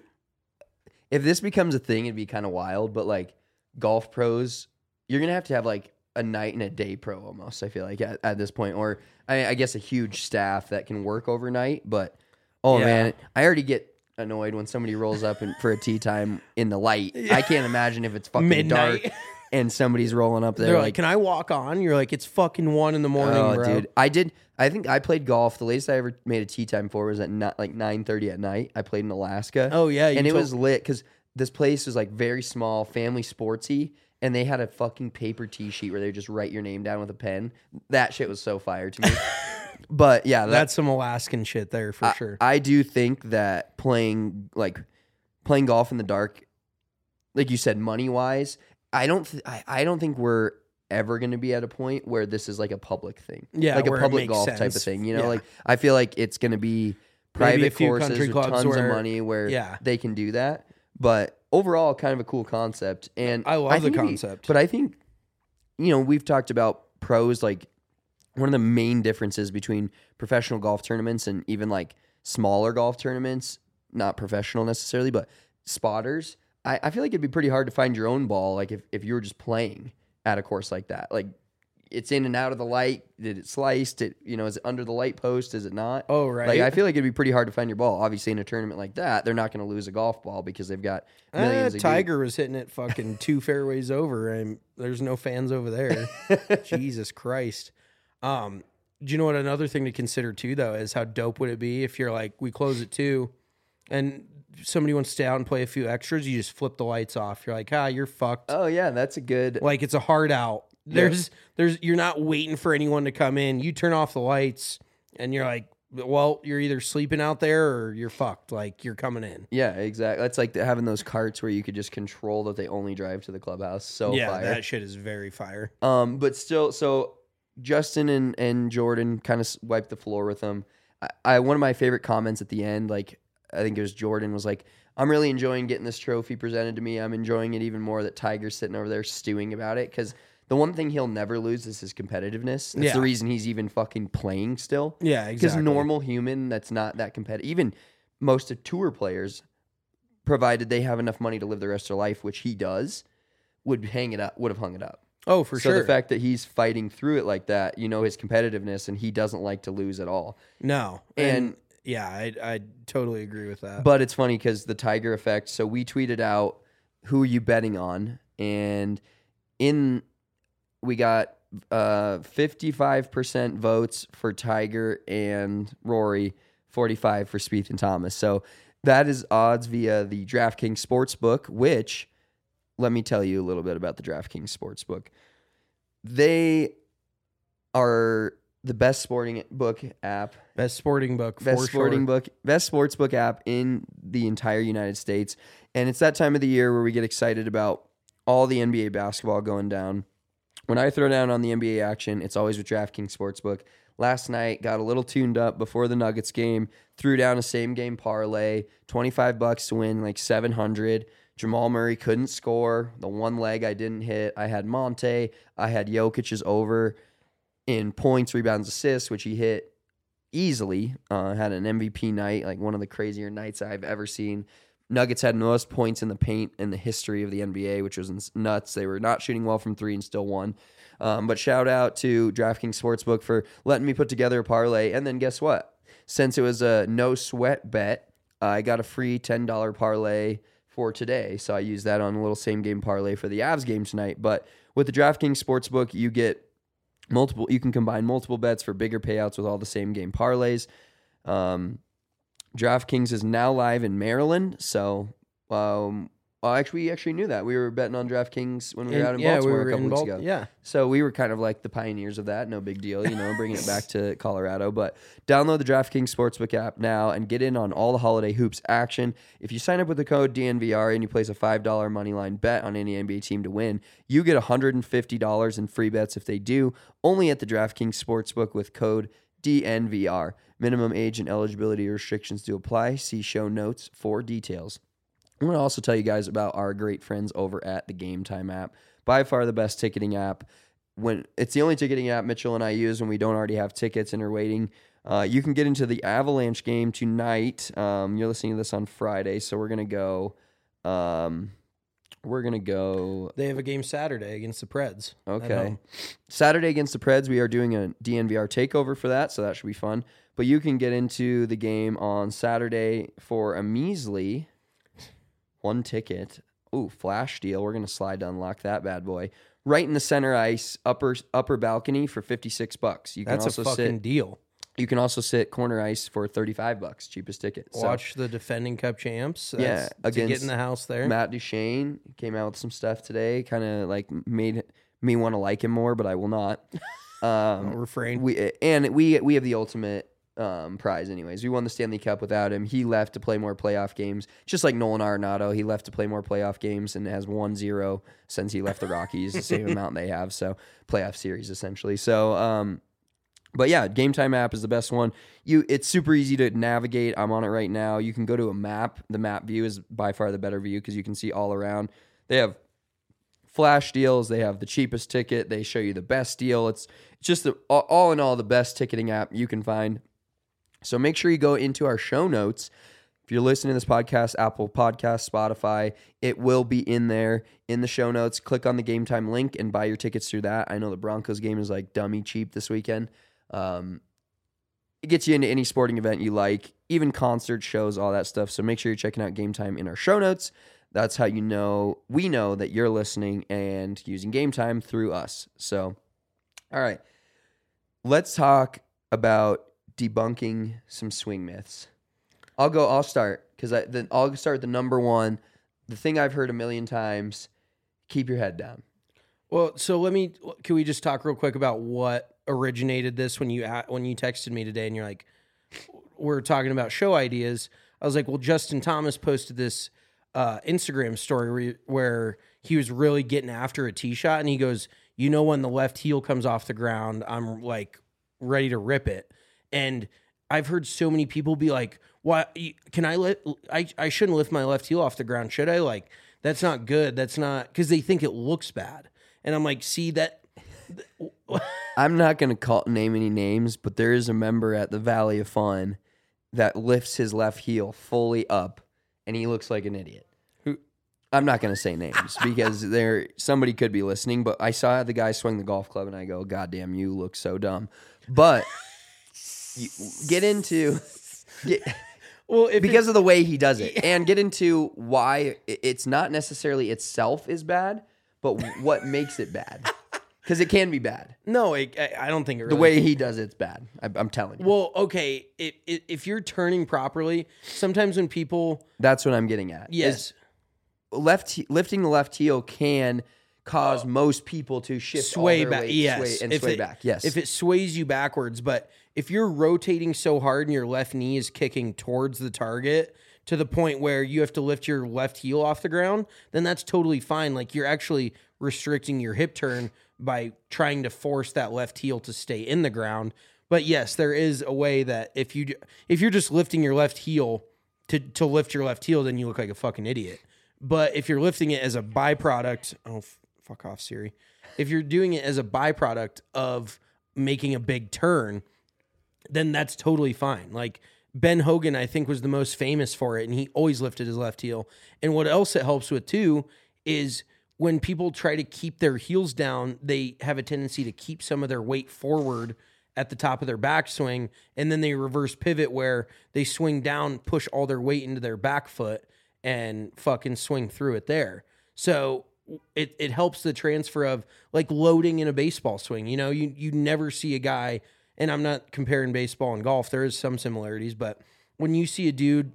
If this becomes a thing, it'd be kind of wild, but like golf pros, you're going to have like a night and a day pro almost, I feel like at this point, or I guess a huge staff that can work overnight. But man, I already get annoyed when somebody rolls up for a tee time in the light. Yeah. I can't imagine if it's fucking midnight. Dark and somebody's rolling up there. They're like, can I walk on? You're like, it's fucking 1 a.m, bro. Dude, I think I played golf. The latest I ever made a tee time for was at like 9:30 at night. I played in Alaska. Oh yeah, and it was lit because this place was like very small, family sportsy, and they had a fucking paper tee sheet where they just write your name down with a pen. That shit was so fire to me. But yeah, that's some Alaskan shit there for sure. I do think that playing golf in the dark, like you said, money wise, I don't think we're ever going to be at a point where this is like a public thing. Yeah, like a where it public makes golf sense. type of thing. You know, Yeah. like I feel like it's going to be Maybe a private few courses country with clubs tons where- of money where Yeah. they can do that. But overall, kind of a cool concept. And I love the think concept. But I think, you know, we've talked about pros, like one of the main differences between professional golf tournaments and even like smaller golf tournaments, not professional necessarily, but spotters. I feel like it'd be pretty hard to find your own ball, like if you were just playing at a course like that. Like it's in and out of the light. Did it sliced? Is it under the light post? Is it not? Oh, right. Like I feel like it'd be pretty hard to find your ball. Obviously, in a tournament like that, they're not going to lose a golf ball because they've got millions of Tiger was hitting it fucking 2 fairways over, and there's no fans over there. Jesus Christ. Do you know what another thing to consider too, though, is how dope would it be if you're like, we close at 2 and somebody wants to stay out and play a few extras, you just flip the lights off. You're like, you're fucked. Oh yeah, that's a good. Like it's a hard out. There's you're not waiting for anyone to come in. You turn off the lights and you're like, well, you're either sleeping out there or you're fucked. Like, you're coming in. Yeah, exactly. That's like having those carts where you could just control that they only drive to the clubhouse. So Yeah, fire. that shit is very fire. But still, so Justin and Jordan kind of wiped the floor with them. I one of my favorite comments at the end, like I think it was Jordan, was like, "I'm really enjoying getting this trophy presented to me. I'm enjoying it even more that Tiger's sitting over there stewing about it because the one thing he'll never lose is his competitiveness. That's Yeah. the reason he's even fucking playing still. Yeah, Because exactly. normal human that's not that competitive, even most of tour players, provided they have enough money to live the rest of their life, which he does, would have hung it up. Oh, for So sure. the fact that he's fighting through it like that, his competitiveness, and he doesn't like to lose at all. No. And yeah, I totally agree with that. But it's funny because the Tiger effect. So we tweeted out, "Who are you betting on?" And we got 55% votes for Tiger and Rory, 45 for Spieth and Thomas. So that is odds via the DraftKings Sportsbook, which, let me tell you a little bit about the DraftKings Sportsbook. They are the best sporting book app. Best sporting book, Best sportsbook app in the entire United States. And it's that time of the year where we get excited about all the NBA basketball going down. When I throw down on the NBA action, it's always with DraftKings Sportsbook. Last night, got a little tuned up before the Nuggets game, threw down a same game parlay, $25 to win like 700. Jamal Murray couldn't score. The one leg I didn't hit. I had Monte. I had Jokic's over in points, rebounds, assists, which he hit easily. Had an MVP night, like one of the crazier nights I've ever seen. Nuggets had most points in the paint in the history of the NBA, which was nuts. They were not shooting well from three and still won. But shout out to DraftKings Sportsbook for letting me put together a parlay. And then guess what? Since it was a no sweat bet, I got a free $10 parlay for today. So I used that on a little same game parlay for the Avs game tonight. But with the DraftKings Sportsbook, you get you can combine multiple bets for bigger payouts with all the same game parlays. DraftKings is now live in Maryland, so we actually knew that. We were betting on DraftKings when we were out in Baltimore a couple weeks ago. Yeah. So we were kind of like the pioneers of that. No big deal, bringing it back to Colorado. But download the DraftKings Sportsbook app now and get in on all the holiday hoops action. If you sign up with the code DNVR and you place a $5 moneyline bet on any NBA team to win, you get $150 in free bets if they do, only at the DraftKings Sportsbook with code DNVR. Minimum age and eligibility restrictions do apply. See show notes for details. I want to also tell you guys about our great friends over at the Game Time app. By far the best ticketing app. When it's the only ticketing app Mitchell and I use when we don't already have tickets and are waiting. You can get into the Avalanche game tonight. You're listening to this on Friday, so we're gonna go. They have a game Saturday against the Preds. Okay. Saturday against the Preds, we are doing a DNVR takeover for that, so that should be fun. But you can get into the game on Saturday for a measly one ticket. Ooh, flash deal. We're going to slide to unlock that bad boy. Right in the center ice, upper balcony for $56. You can That's also a fucking deal. You can also sit corner ice for $35, cheapest ticket. Watch the defending Cup champs. Yeah, to get in the house there. Matt Duchene came out with some stuff today, kind of like made me want to like him more, but I will not. Refrain. We have the ultimate prize anyways. We won the Stanley Cup without him. He left to play more playoff games, just like Nolan Arenado. He left to play more playoff games and has 1-0 since he left the Rockies, the same amount they have. So playoff series essentially. So but yeah, Game Time app is the best one. It's super easy to navigate. I'm on it right now. You can go to a map. The map view is by far the better view because you can see all around. They have flash deals. They have the cheapest ticket. They show you the best deal. It's just all in all the best ticketing app you can find. So make sure you go into our show notes. If you're listening to this podcast, Apple Podcasts, Spotify, it will be in there in the show notes. Click on the Game Time link and buy your tickets through that. I know the Broncos game is like dummy cheap this weekend. It gets you into any sporting event you like, even concerts, shows, all that stuff. So make sure you're checking out Game Time in our show notes. That's how we know that you're listening and using Game Time through us. So, all right, let's talk about debunking some swing myths. I'll start because I'll start with the number one, the thing I've heard a million times: keep your head down. Well, so can we just talk real quick about what originated this when you texted me today and you're like, we're talking about show ideas, I was like, well, Justin Thomas posted this Instagram story where he was really getting after a tee shot, and he goes, when the left heel comes off the ground, I'm like ready to rip it. And I've heard so many people be like, why can I shouldn't lift my left heel off the ground, should I? Like, that's not good. That's not, because they think it looks bad. And I'm like, see that. I'm not going to name any names, but there is a member at the Valley of Fun that lifts his left heel fully up, and he looks like an idiot. Who? I'm not going to say names because somebody could be listening, but I saw the guy swing the golf club, and I go, God damn, you look so dumb. But because of the way he does it, and get into why it's not necessarily itself is bad, but what makes it bad. Because it can be bad. No, I don't think it really. The way he does it's bad. I'm telling you. Well, okay, if you're turning properly, sometimes when people... That's what I'm getting at. Yes. Lifting the left heel can cause most people to shift sway all their back. weight, Yes. sway back. Yes. If it sways you backwards, but if you're rotating so hard and your left knee is kicking towards the target to the point where you have to lift your left heel off the ground, then that's totally fine. Like, you're actually restricting your hip turn by trying to force that left heel to stay in the ground. But yes, there is a way that if you're just lifting your left heel to lift your left heel, then you look like a fucking idiot. But if you're lifting it as a byproduct, fuck off, Siri. If you're doing it as a byproduct of making a big turn, then that's totally fine. Like, Ben Hogan, I think, was the most famous for it, and he always lifted his left heel. And what else it helps with too is when people try to keep their heels down, they have a tendency to keep some of their weight forward at the top of their backswing, and then they reverse pivot where they swing down, push all their weight into their back foot, and fucking swing through it there. So it helps the transfer of, like, loading in a baseball swing. You never see a guy, and I'm not comparing baseball and golf, there is some similarities, but when you see a dude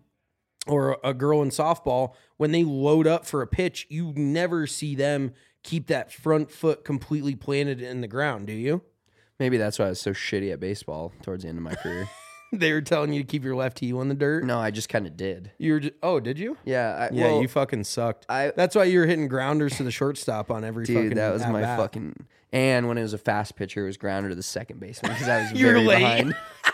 or a girl in softball, when they load up for a pitch, you never see them keep that front foot completely planted in the ground, do you? Maybe that's why I was so shitty at baseball towards the end of my career. They were telling you to keep your left heel in the dirt? No, I just kind of did. Did you? Yeah. You fucking sucked. That's why you were hitting grounders to the shortstop on every fucking that was my at-bat. fucking... And when it was a fast pitcher, it was grounder to the second baseman because I was You're very late. behind.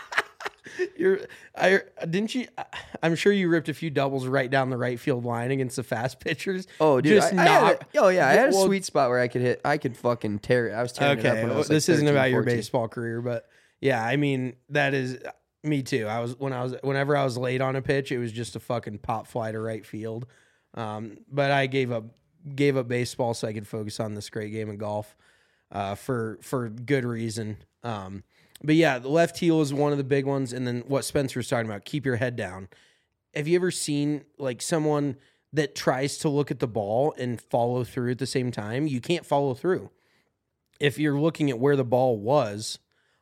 Didn't you? I'm sure you ripped a few doubles right down the right field line against the fast pitchers. Oh, dude. I had a Well, sweet spot where I could fucking tear it. I was tearing it up when I was this like isn't 13, about your 14. baseball career, but yeah, I mean, that is me too. Whenever I was late on a pitch, it was just a fucking pop fly to right field. But I gave up baseball so I could focus on this great game of golf, for good reason. But yeah, the left heel is one of the big ones. And then what Spencer was talking about, keep your head down. Have you ever seen, like, someone that tries to look at the ball and follow through at the same time? You can't follow through. If you're looking at where the ball was,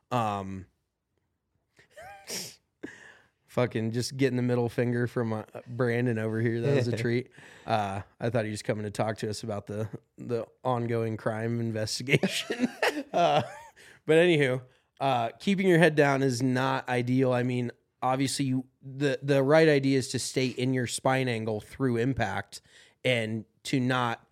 fucking just getting the middle finger from Brandon over here. That was a treat. I thought he was coming to talk to us about the ongoing crime investigation. But anywho, keeping your head down is not ideal. I mean, obviously, the right idea is to stay in your spine angle through impact and to not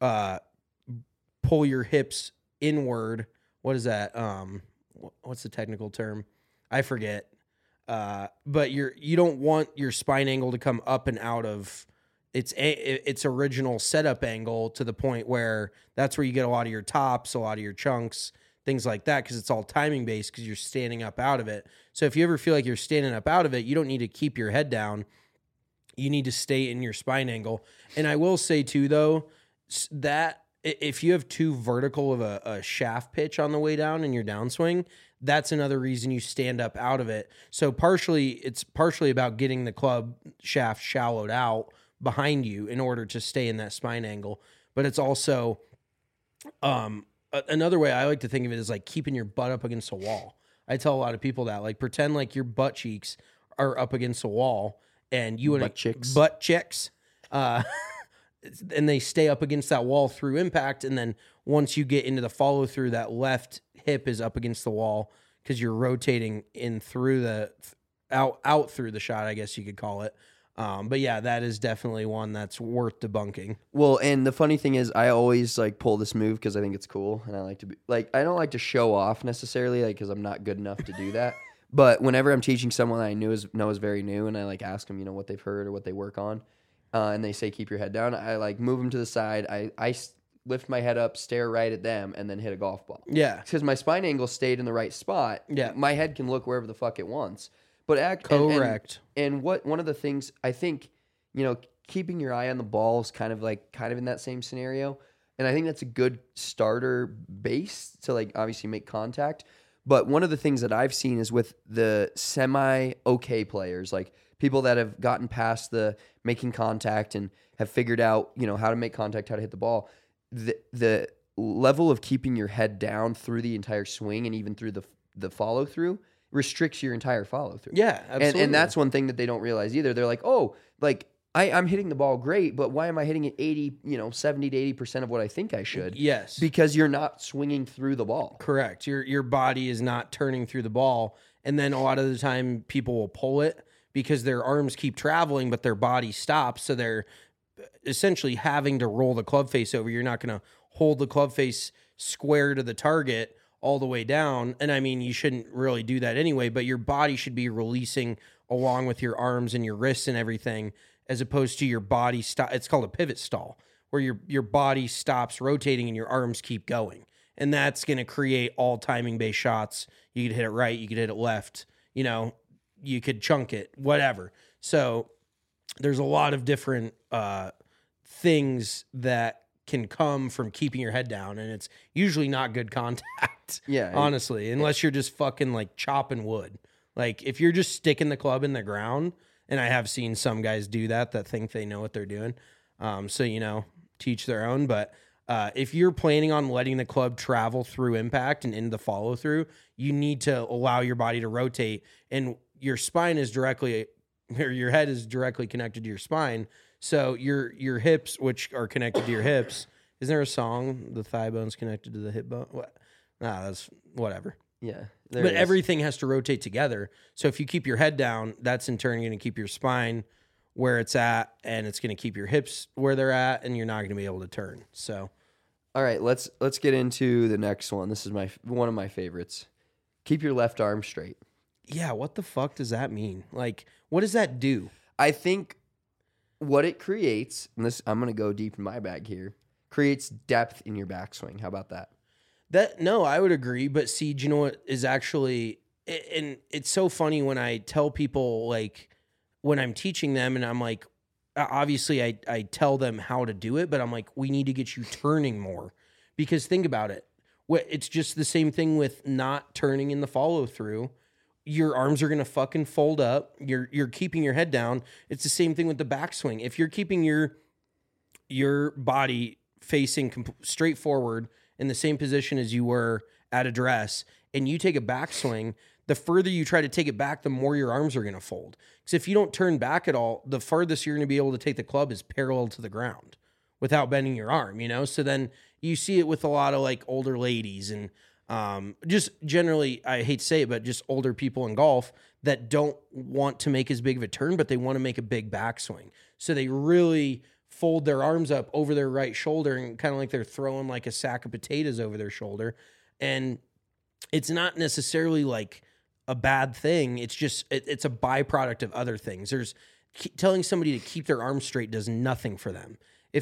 pull your hips inward. What is that? What's the technical term? I forget. But you don't want your spine angle to come up and out of its original setup angle to the point where that's where you get a lot of your tops, a lot of your chunks, things like that, because it's all timing based because you're standing up out of it. So if you ever feel like you're standing up out of it, you don't need to keep your head down. You need to stay in your spine angle. And I will say too, though, that if you have too vertical of a shaft pitch on the way down in your downswing, that's another reason you stand up out of it. So it's partially about getting the club shaft shallowed out behind you in order to stay in that spine angle. But it's also another way I like to think of it is like keeping your butt up against a wall. I tell a lot of people that, like, pretend like your butt cheeks are up against a wall and you and butt chicks, and they stay up against that wall through impact. And then once you get into the follow through, that left hip is up against the wall because you're rotating in through out through the shot, I guess you could call it. But yeah, that is definitely one that's worth debunking. Well, and the funny thing is, I always like pull this move because I think it's cool, and I like to be like, I don't like to show off necessarily, like because I'm not good enough to do that. But whenever I'm teaching someone I know is very new, and I like ask them, what they've heard or what they work on, and they say keep your head down, I like move them to the side. I lift my head up, stare right at them, and then hit a golf ball. Yeah, because my spine angle stayed in the right spot. Yeah, my head can look wherever the fuck it wants. But correct. And what one of the things I think, keeping your eye on the ball is kind of in that same scenario. And I think that's a good starter base to like obviously make contact. But one of the things that I've seen is with the semi-okay players, like people that have gotten past the making contact and have figured out, how to make contact, how to hit the ball, the level of keeping your head down through the entire swing and even through the follow through restricts your entire follow through. Yeah, absolutely. And that's one thing that they don't realize either. They're like, oh, like I'm hitting the ball great, but why am I hitting it 70 to 80% of what I think I should? Yes. Because you're not swinging through the ball. Correct. Your body is not turning through the ball. And then a lot of the time people will pull it because their arms keep traveling, but their body stops. So they're essentially having to roll the club face over. You're not going to hold the club face square to the target all the way down. And I mean, you shouldn't really do that anyway, but your body should be releasing along with your arms and your wrists and everything, as opposed to your body stop. It's called a pivot stall, where your body stops rotating and your arms keep going. And that's going to create all timing based shots. You could hit it right, you could hit it left, you could chunk it, whatever. So there's a lot of different things that can come from keeping your head down, and it's usually not good contact. Yeah, honestly, unless you're just fucking like chopping wood. Like if you're just sticking the club in the ground, and I have seen some guys do that think they know what they're doing. So teach their own. But if you're planning on letting the club travel through impact and into the follow through, you need to allow your body to rotate, and your spine is directly, or your head is directly connected to your spine. So your hips, which are connected to your hips, isn't there a song, the thigh bone's connected to the hip bone? What? Nah, that's whatever. Yeah. But everything has to rotate together. So if you keep your head down, that's in turn going to keep your spine where it's at, and it's going to keep your hips where they're at, and you're not going to be able to turn. So, all right, let's get into the next one. This is one of my favorites. Keep your left arm straight. Yeah, what the fuck does that mean? Like, what does that do? I think what it creates, and this I'm going to go deep in my bag here, creates depth in your backswing. How about that? No, I would agree. But see, do you know what is actually, and it's so funny when I tell people, like, when I'm teaching them, and I'm like, obviously I tell them how to do it, but I'm like, we need to get you turning more, because think about it. It's just the same thing with not turning in the follow through. Your arms are going to fucking fold up. You're keeping your head down. It's the same thing with the backswing. If you're keeping your body facing straight forward in the same position as you were at address, and you take a backswing, the further you try to take it back, the more your arms are going to fold. Because if you don't turn back at all, the farthest you're going to be able to take the club is parallel to the ground without bending your arm, So then you see it with a lot of like older ladies and just generally, I hate to say it, but just older people in golf that don't want to make as big of a turn, but they want to make a big backswing. So they really fold their arms up over their right shoulder and kind of like they're throwing like a sack of potatoes over their shoulder. And it's not necessarily like a bad thing. It's just, it's a byproduct of other things. Telling somebody to keep their arms straight does nothing for them.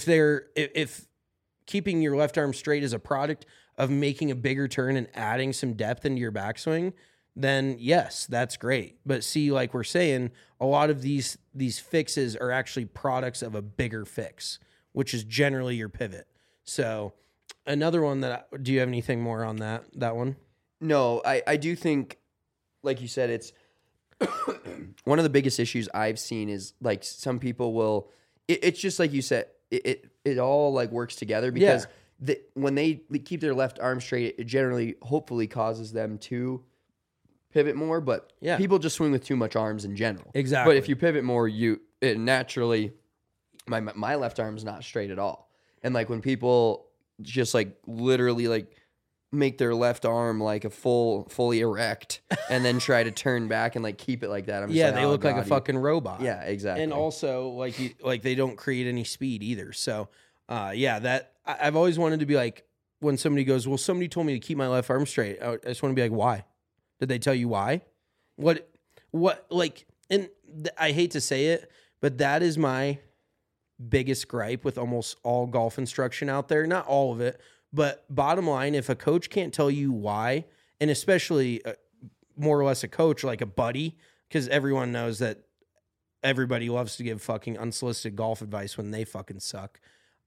If keeping your left arm straight is a product of making a bigger turn and adding some depth into your backswing, then yes, that's great. But see, like we're saying, a lot of these fixes are actually products of a bigger fix, which is generally your pivot. So another one do you have anything more on that one? No, I do think, like you said, it's one of the biggest issues I've seen is like some people will, it's just like you said, it all like works together because when they keep their left arm straight, it generally, hopefully causes them to pivot more, but people just swing with too much arms in general. Exactly. But if you pivot more, it naturally, my left arm's not straight at all. And like when people just like literally like make their left arm like a fully erect and then try to turn back and like keep it like that. I'm just they look like a fucking robot. Yeah, exactly. And also like they don't create any speed either. So that I've always wanted to be like, when somebody goes, well, somebody told me to keep my left arm straight, I just want to be like, why? Did they tell you why? What like, and I hate to say it, but that is my biggest gripe with almost all golf instruction out there. Not all of it, but bottom line, if a coach can't tell you why, and especially more or less a coach, like a buddy, because everyone knows that everybody loves to give fucking unsolicited golf advice when they fucking suck.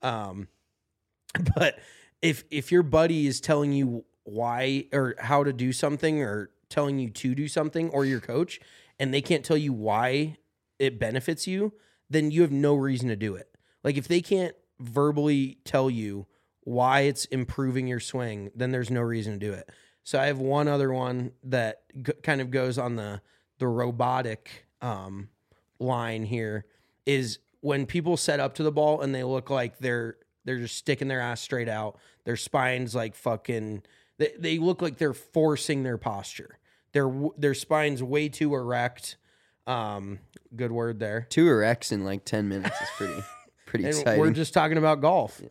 But if your buddy is telling you why or how to do something or telling you to do something, or your coach, and they can't tell you why it benefits you, then you have no reason to do it. Like if they can't verbally tell you why it's improving your swing, then there's no reason to do it. So I have one other one that kind of goes on the robotic line here, is when people set up to the ball and they look like they're just sticking their ass straight out. Their spine's like fucking, they look like they're forcing their posture. Their spine's way too erect. Good word there. 2 erects in like 10 minutes is pretty And exciting. we're just talking about golf.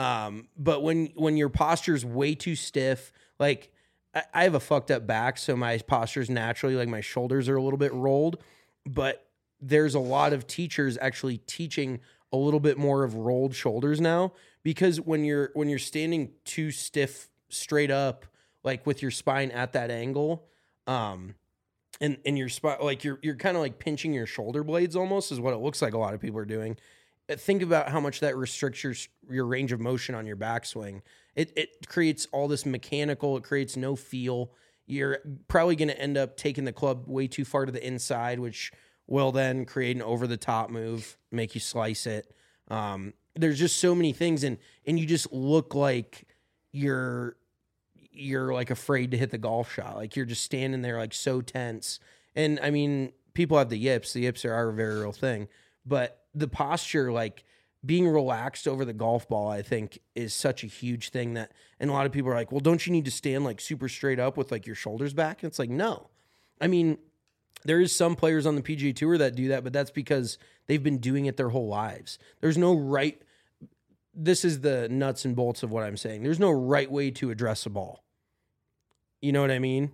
But when your posture's way too stiff, like I have a fucked up back, so my posture's naturally like my shoulders are a little bit rolled, but there's a lot of teachers actually teaching a little bit more of rolled shoulders now, because when you're standing too stiff straight up, like with your spine at that angle, and your spine, like you're kind of like pinching your shoulder blades almost, is what it looks like a lot of people are doing. Think about how much that restricts your range of motion on your backswing. It creates all this mechanical, it creates no feel. You're probably going to end up taking the club way too far to the inside, which will then create an over-the-top move, make you slice it. There's just so many things, and you just look like you're like afraid to hit the golf shot. Like you're just standing there like so tense. And I mean, people have the yips. The yips are a very real thing. But the posture, like being relaxed over the golf ball, I think is such a huge thing that, and a lot of people are like, well, don't you need to stand like super straight up with like your shoulders back? And it's like, no. I mean, there is some players on the PGA Tour that do that, but that's because they've been doing it their whole lives. There's no right. This is the nuts and bolts of what I'm saying. There's no right way to address a ball. You know what I mean?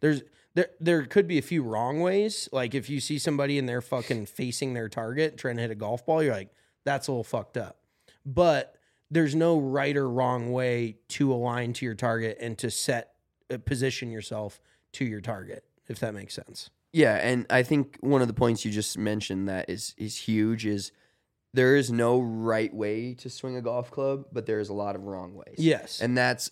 There could be a few wrong ways. Like if you see somebody and they're fucking facing their target trying to hit a golf ball, you're like, that's a little fucked up. But there's no right or wrong way to align to your target and to position yourself to your target, if that makes sense. Yeah, and I think one of the points you just mentioned that is huge is there is no right way to swing a golf club, but there is a lot of wrong ways. Yes. And that's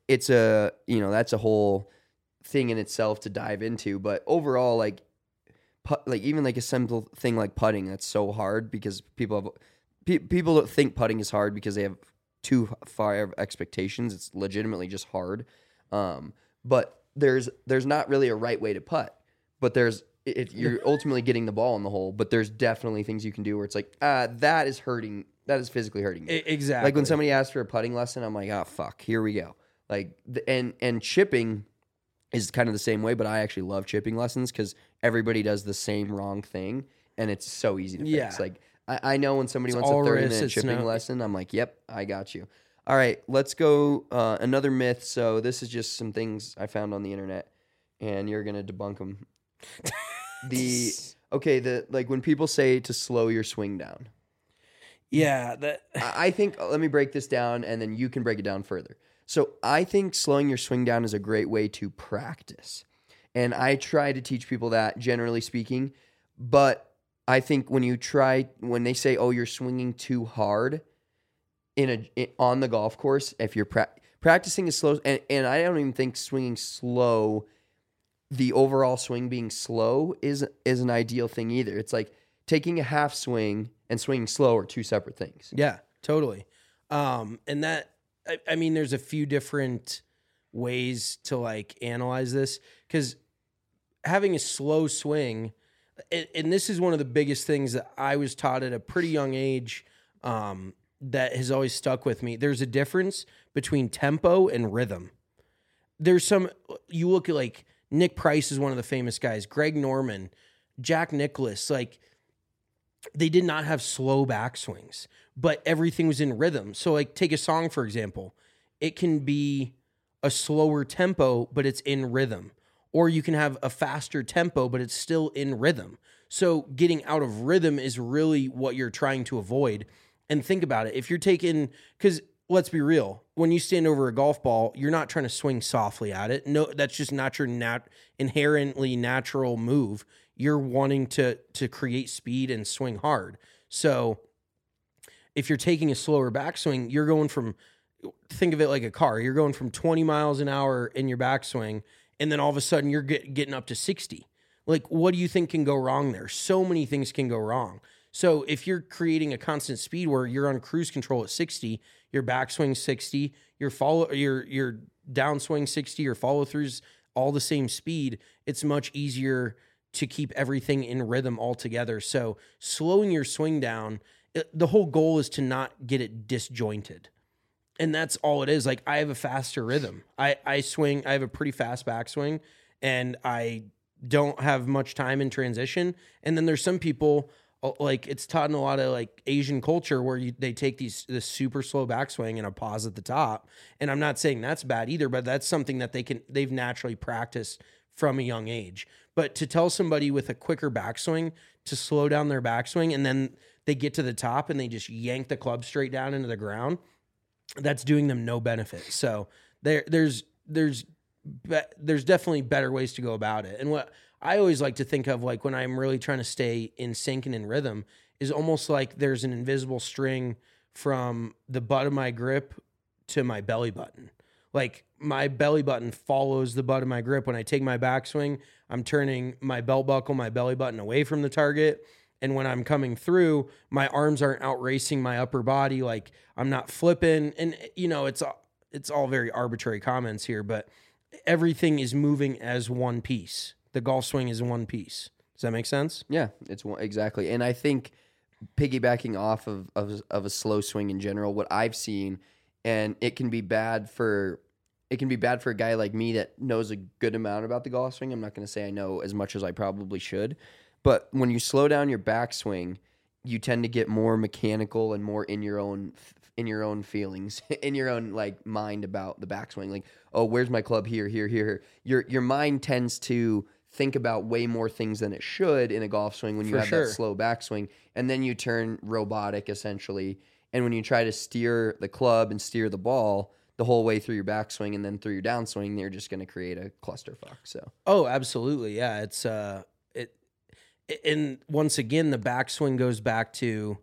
a whole thing in itself to dive into, but overall like even like a simple thing like putting, that's so hard because people don't think putting is hard because they have too far expectations. It's legitimately just hard. But there's not really a right way to putt. But you're ultimately getting the ball in the hole, but there's definitely things you can do where it's like, that is physically hurting me. Exactly. Like when somebody asks for a putting lesson, I'm like, oh, fuck, here we go. Like, and chipping is kind of the same way, but I actually love chipping lessons because everybody does the same wrong thing, and it's so easy to fix. Like, I know when somebody wants a 30-minute chipping lesson, I'm like, yep, I got you. All right, let's go another myth. So this is just some things I found on the internet, and you're going to debunk them. Like when people say to slow your swing down. Yeah. I think, let me break this down, and then you can break it down further. So I think slowing your swing down is a great way to practice. And I try to teach people that, generally speaking. But I think when they say, oh, you're swinging too hard on the golf course, if you're practicing is slow, and I don't even think swinging slow, the overall swing being slow is an ideal thing either. It's like taking a half swing and swinging slow are two separate things. Yeah, totally. And that, I mean, there's a few different ways to like analyze this, because having a slow swing, and this is one of the biggest things that I was taught at a pretty young age, that has always stuck with me. There's a difference between tempo and rhythm. there's some, you look at like Nick Price is one of the famous guys, Greg Norman, Jack Nicklaus, like they did not have slow backswings, but everything was in rhythm. So like take a song, for example, it can be a slower tempo, but it's in rhythm. Or you can have a faster tempo, but it's still in rhythm. So getting out of rhythm is really what you're trying to avoid. And think about it. If you're taking, because let's be real, when you stand over a golf ball, you're not trying to swing softly at it. No, that's just not your inherently natural move. You're wanting to create speed and swing hard. So if you're taking a slower backswing, you're going from, think of it like a car. You're going from 20 miles an hour in your backswing, and then all of a sudden you're getting up to 60. Like, what do you think can go wrong there? So many things can go wrong. So if you're creating a constant speed where you're on cruise control at 60, your backswing 60, your downswing 60, your follow throughs all the same speed, it's much easier to keep everything in rhythm altogether. So slowing your swing down, the whole goal is to not get it disjointed. And that's all it is. Like, I have a faster rhythm. I swing, I have a pretty fast backswing, and I don't have much time in transition. And then there's some people, like it's taught in a lot of like Asian culture where they take this super slow backswing and a pause at the top. And I'm not saying that's bad either, but that's something that they've naturally practiced from a young age. But to tell somebody with a quicker backswing to slow down their backswing, and then they get to the top and they just yank the club straight down into the ground, that's doing them no benefit. So there's definitely better ways to go about it. And what I always like to think of, like when I'm really trying to stay in sync and in rhythm, is almost like there's an invisible string from the butt of my grip to my belly button. Like my belly button follows the butt of my grip. When I take my backswing, I'm turning my belt buckle, my belly button away from the target. And when I'm coming through, my arms aren't out racing my upper body. Like I'm not flipping. And you know, it's all very arbitrary comments here, but everything is moving as one piece. The golf swing is one piece. Does that make sense? Yeah, it's exactly. And I think piggybacking off of a slow swing in general, what I've seen, and it can be bad for a guy like me that knows a good amount about the golf swing. I'm not going to say I know as much as I probably should, but when you slow down your backswing, you tend to get more mechanical and more in your own feelings, in your own like mind about the backswing. Like, oh, where's my club here, here, here. Your mind tends to think about way more things than it should in a golf swing when you have that slow backswing, and then you turn robotic essentially. And when you try to steer the club and steer the ball the whole way through your backswing and then through your downswing, you're just going to create a clusterfuck. So, oh, absolutely, yeah. It's and once again, the backswing goes back to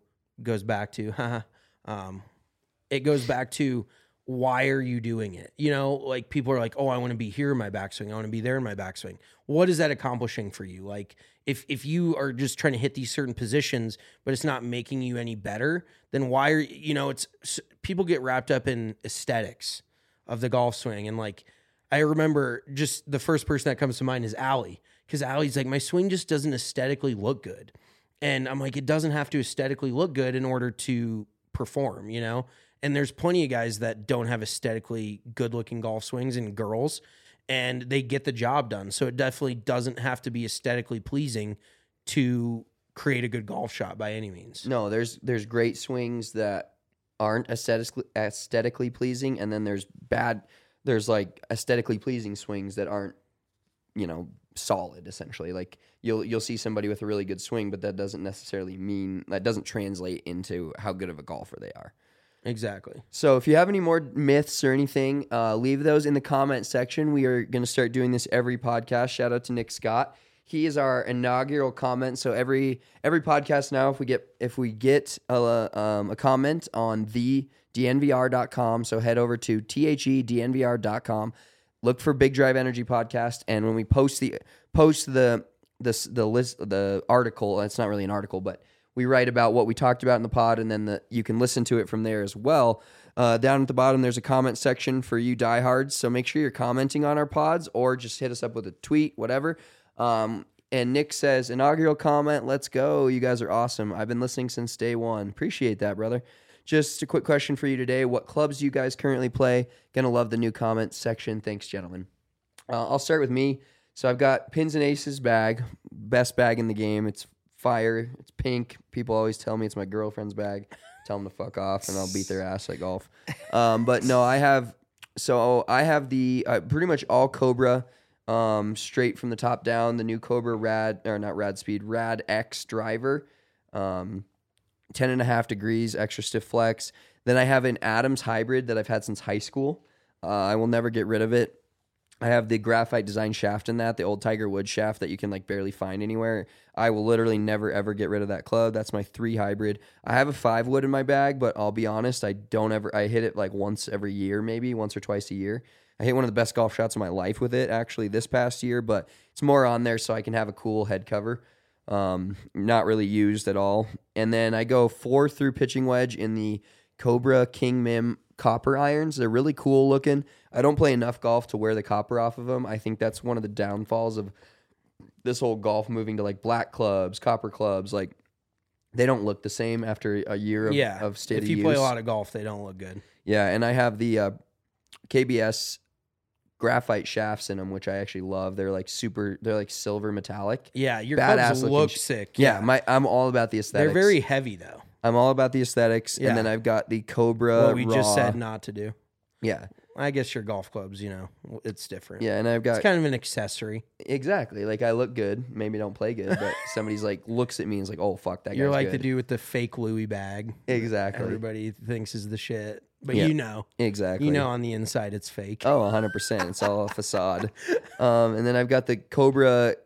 it goes back to why are you doing it? You know, like people are like, oh, I want to be here in my backswing. I want to be there in my backswing. What is that accomplishing for you? Like if you are just trying to hit these certain positions, but it's not making you any better, then why are you know, it's people get wrapped up in aesthetics of the golf swing. And like, I remember just the first person that comes to mind is Allie, because Allie's like, my swing just doesn't aesthetically look good. And I'm like, it doesn't have to aesthetically look good in order to perform, you know? And there's plenty of guys that don't have aesthetically good-looking golf swings, and girls, and they get the job done. So it definitely doesn't have to be aesthetically pleasing to create a good golf shot by any means. No, there's great swings that aren't aesthetically pleasing, and then there's like aesthetically pleasing swings that aren't, you know, solid essentially. Like you'll see somebody with a really good swing, but that doesn't translate into how good of a golfer they are. Exactly. So if you have any more myths or anything, leave those in the comment section. We are going to start doing this every podcast. Shout out to Nick Scott. He is our inaugural comment. So every podcast now, if we get a comment on thednvr.com, so head over to thednvr.com, look for Big Drive Energy Podcast, and when we post the list, the article, it's not really an article, but we write about what we talked about in the pod, and then you can listen to it from there as well. Down at the bottom, there's a comment section for you diehards, so make sure you're commenting on our pods or just hit us up with a tweet, whatever. And Nick says, inaugural comment, let's go. You guys are awesome. I've been listening since day one. Appreciate that, brother. just a quick question for you today. What clubs do you guys currently play? Gonna love the new comments section. Thanks, gentlemen. I'll start with me. So I've got Pins and Aces bag, best bag in the game. It's fire. It's pink. People always tell me it's my girlfriend's bag. Tell them to fuck off, and I'll beat their ass at golf. But no, I have the pretty much all Cobra, straight from the top down. The new Cobra Rad X driver, 10.5 degrees, extra stiff flex. Then I have an Adams hybrid that I've had since high school. I will never get rid of it. I have the graphite design shaft in that, the old Tiger Woods shaft that you can like barely find anywhere. I will literally never ever get rid of that club. That's my 3 hybrid. I have a 5 wood in my bag, but I'll be honest, I hit it like once every year, maybe once or twice a year. I hit one of the best golf shots of my life with it actually this past year, but it's more on there so I can have a cool head cover. Not really used at all. And then I go 4 through pitching wedge in the Cobra King Mim copper irons. They're really cool looking. I don't play enough golf to wear the copper off of them. I think that's one of the downfalls of this whole golf moving to like black clubs, copper clubs. Like they don't look the same after a year of state of use. If you play a lot of golf, they don't look good. Yeah, and I have the KBS graphite shafts in them, which I actually love. They're like silver metallic. Yeah, your badass clubs look sick. Yeah, I'm all about the aesthetics. They're very heavy though. I'm all about the aesthetics. Yeah. And then I've got the Cobra What we Raw. just said not to do. Yeah. I guess your golf clubs, it's different. Yeah, and I've got... It's kind of an accessory. Exactly. Like, I look good. Maybe don't play good, but somebody's like, looks at me and is like, oh, fuck, that guy's You're like good. the dude with the fake Louis bag. Exactly. Everybody thinks is the shit. But Exactly. on the inside it's fake. Oh, 100%. It's all a facade. And then I've got the Cobra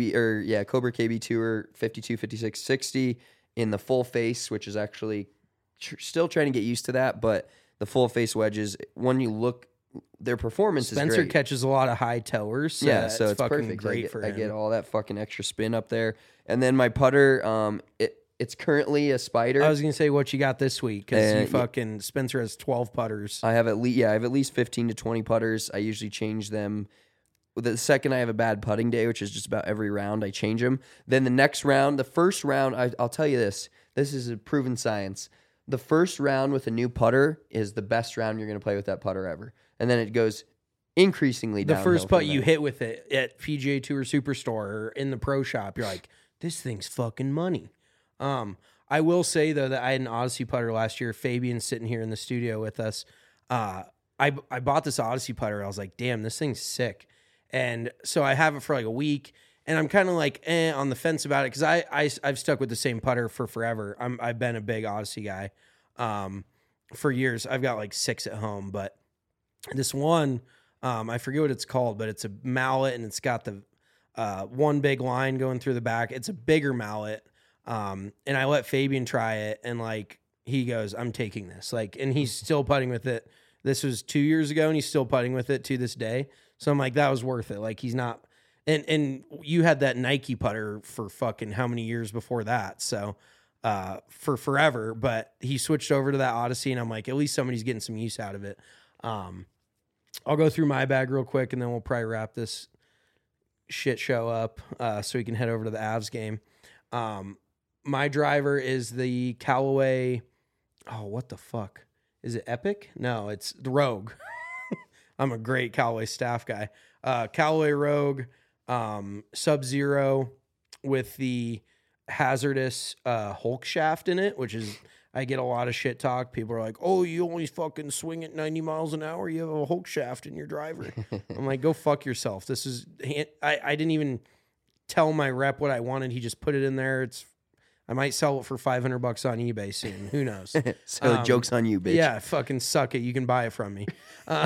KB Tour 52, 56, 60 in the full face, which is actually still trying to get used to that, but the full face wedges, when you look, their performance is great. Spencer catches a lot of high towers. So yeah, so it's fucking perfect. Great for him. I get all that fucking extra spin up there. And then my putter, it's currently a Spider. I was going to say what you got this week because Spencer has 12 putters. I have at least 15 to 20 putters. I usually change them. The second I have a bad putting day, which is just about every round, I change them. Then the next round, the first round, I'll tell you this is a proven science. The first round with a new putter is the best round you're going to play with that putter ever. And then it goes increasingly downhill. The first putt you hit with it at PGA Tour Superstore or in the pro shop, you're like, this thing's fucking money. I will say, though, that I had an Odyssey putter last year. Fabian's sitting here in the studio with us. I bought this Odyssey putter. I was like, damn, this thing's sick. And so I have it for like a week. And I'm kind of like on the fence about it because I've stuck with the same putter for forever. I've been a big Odyssey guy for years. I've got like 6 at home, but this one, I forget what it's called, but it's a mallet and it's got the one big line going through the back. It's a bigger mallet, and I let Fabian try it, and like he goes, "I'm taking this." Like, and he's still putting with it. This was 2 years ago, and he's still putting with it to this day. So I'm like, that was worth it. Like he's not. And you had that Nike putter for fucking how many years before that? So for forever, but he switched over to that Odyssey, and I'm like, at least somebody's getting some use out of it. I'll go through my bag real quick, and then we'll probably wrap this shit show up so we can head over to the Avs game. My driver is the Callaway. Oh, what the fuck? Is it Epic? No, it's the Rogue. I'm a great Callaway staff guy. Callaway Rogue. Sub-Zero with the hazardous Hulk shaft in it, which is, I get a lot of shit talk. People are like, oh, you only fucking swing at 90 miles an hour. You have a Hulk shaft in your driver. I'm like, go fuck yourself. This is, I didn't even tell my rep what I wanted. He just put it in there. I might sell it for $500 on eBay soon. Who knows? So joke's on you, bitch. Yeah, fucking suck it. You can buy it from me.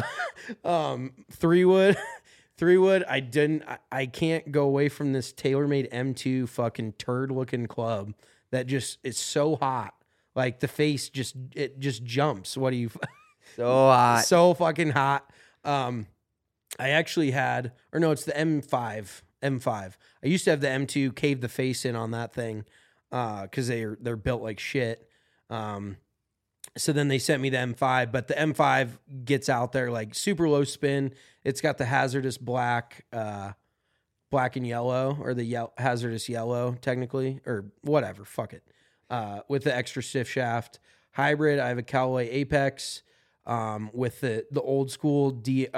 3-wood. 3-wood, I can't go away from this TaylorMade M2 fucking turd looking club that just is so hot. Like the face just jumps. What do you so hot. So fucking hot. I actually had, or no, it's the M5. I used to have the M2, cave the face in on that thing because they're built like shit. So then they sent me the M5, but the M5 gets out there like super low spin. It's got the hazardous black and yellow, or the hazardous yellow technically, or whatever. Fuck it. With the extra stiff shaft. hybrid, I have a Callaway Apex with the old school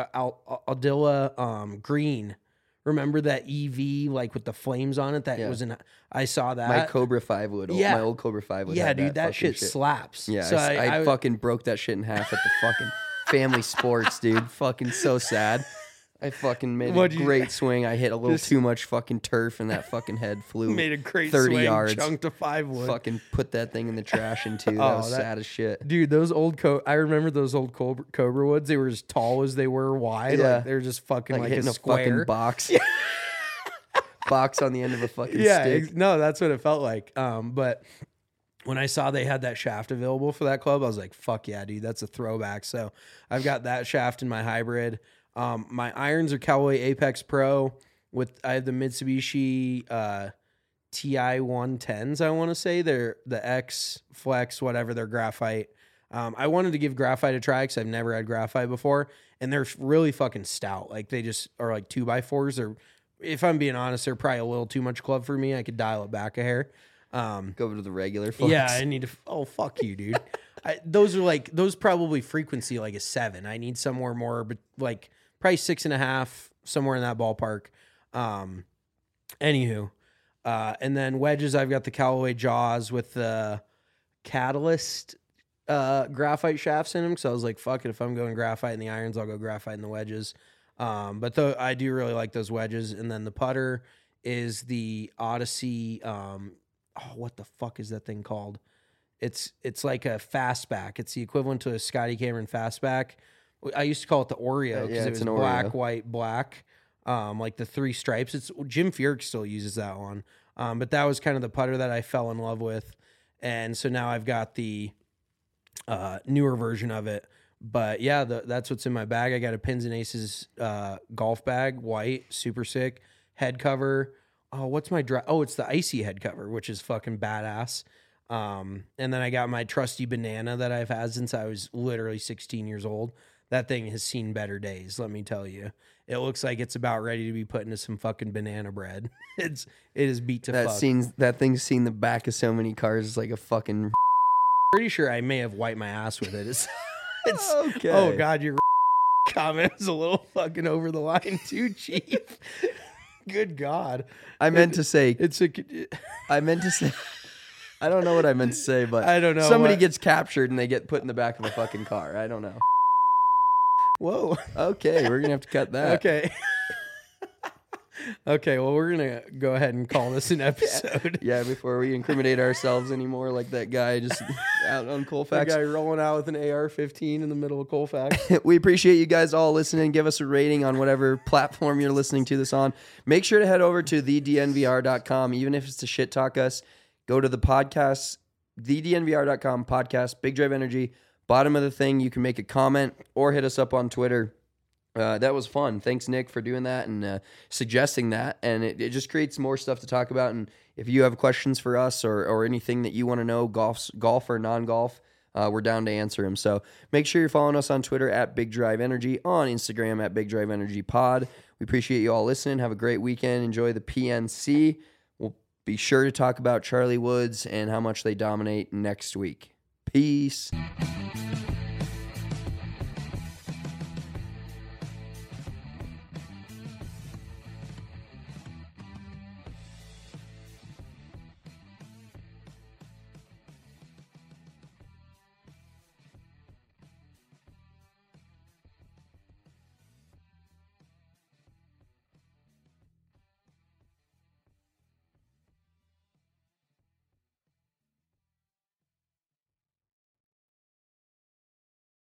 Aldila green. Remember that EV like with the flames on it? That was I saw that. My Cobra 5 would. Yeah. My old Cobra 5 would. Yeah, have dude, that fucking shit slaps. Yeah, So I fucking broke that shit in half at the fucking Family Sports, dude. Fucking so sad. I fucking made a great swing. I hit a little too much fucking turf, and that fucking head flew. Made a great 30 swing, yards. chunked a 5 wood. Fucking put that thing in the trash in two. That was sad as shit. Dude, those old I remember those old Cobra woods. They were as tall as they were wide. Yeah. Like, they were just fucking like hitting a square. fucking box. Box on the end of a fucking stick. No, that's what it felt like. But when I saw they had that shaft available for that club, I was like, fuck yeah, dude, that's a throwback. So I've got that shaft in my hybrid. My irons are Callaway Apex Pro I have the Mitsubishi TI 110s, I want to say. They're the X Flex, whatever, they're graphite. I wanted to give graphite a try because I've never had graphite before, and they're really fucking stout. Like they just are like 2x4s. Or if I'm being honest, they're probably a little too much club for me. I could dial it back a hair. Go to the regular Flex. Yeah, I need to. Oh, fuck you, dude. Those probably frequency like a 7. I need somewhere more, but like probably 6.5, somewhere in that ballpark. Anywho, and then wedges, I've got the Callaway Jaws with the Catalyst graphite shafts in them. So I was like, fuck it, if I'm going graphite in the irons, I'll go graphite in the wedges. But I do really like those wedges. And then the putter is the Odyssey. What the fuck is that thing called? It's like a fastback. It's the equivalent to a Scotty Cameron fastback. I used to call it the Oreo because it was black, Oreo. white, black. Like the 3 stripes. It's Jim Furyk still uses that one. But that was kind of the putter that I fell in love with. And so now I've got the newer version of it. But yeah, that's what's in my bag. I got a Pins and Aces golf bag, white, super sick. Head cover. Oh, what's my it's the icy head cover, which is fucking badass. And then I got my trusty banana that I've had since I was literally 16 years old. That thing has seen better days, let me tell you. It looks like it's about ready to be put into some fucking banana bread. It is beat to fuck. That thing's seen the back of so many cars. It's like a fucking. Pretty sure I may have wiped my ass with it. It's Okay. Oh God, your comment is a little fucking over the line too, Chief. Good God. I meant to say. I don't know what I meant to say, but I don't know. Somebody gets captured and they get put in the back of a fucking car. I don't know. Whoa. Okay, we're gonna have to cut that. Okay. Okay, well, we're going to go ahead and call this an episode. Yeah, before we incriminate ourselves anymore like that guy just out on Colfax. That guy rolling out with an AR-15 in the middle of Colfax. We appreciate you guys all listening. Give us a rating on whatever platform you're listening to this on. Make sure to head over to thednvr.com, even if it's to shit talk us. Go to the podcast, thednvr.com podcast, Big Drive Energy. Bottom of the thing, you can make a comment or hit us up on Twitter. That was fun. Thanks, Nick, for doing that and suggesting that. And it just creates more stuff to talk about. And if you have questions for us or anything that you want to know, golf or non-golf, we're down to answer them. So make sure you're following us on Twitter at Big Drive Energy, on Instagram at Big Drive Energy Pod. We appreciate you all listening. Have a great weekend. Enjoy the PNC. We'll be sure to talk about Charlie Woods and how much they dominate next week. Peace.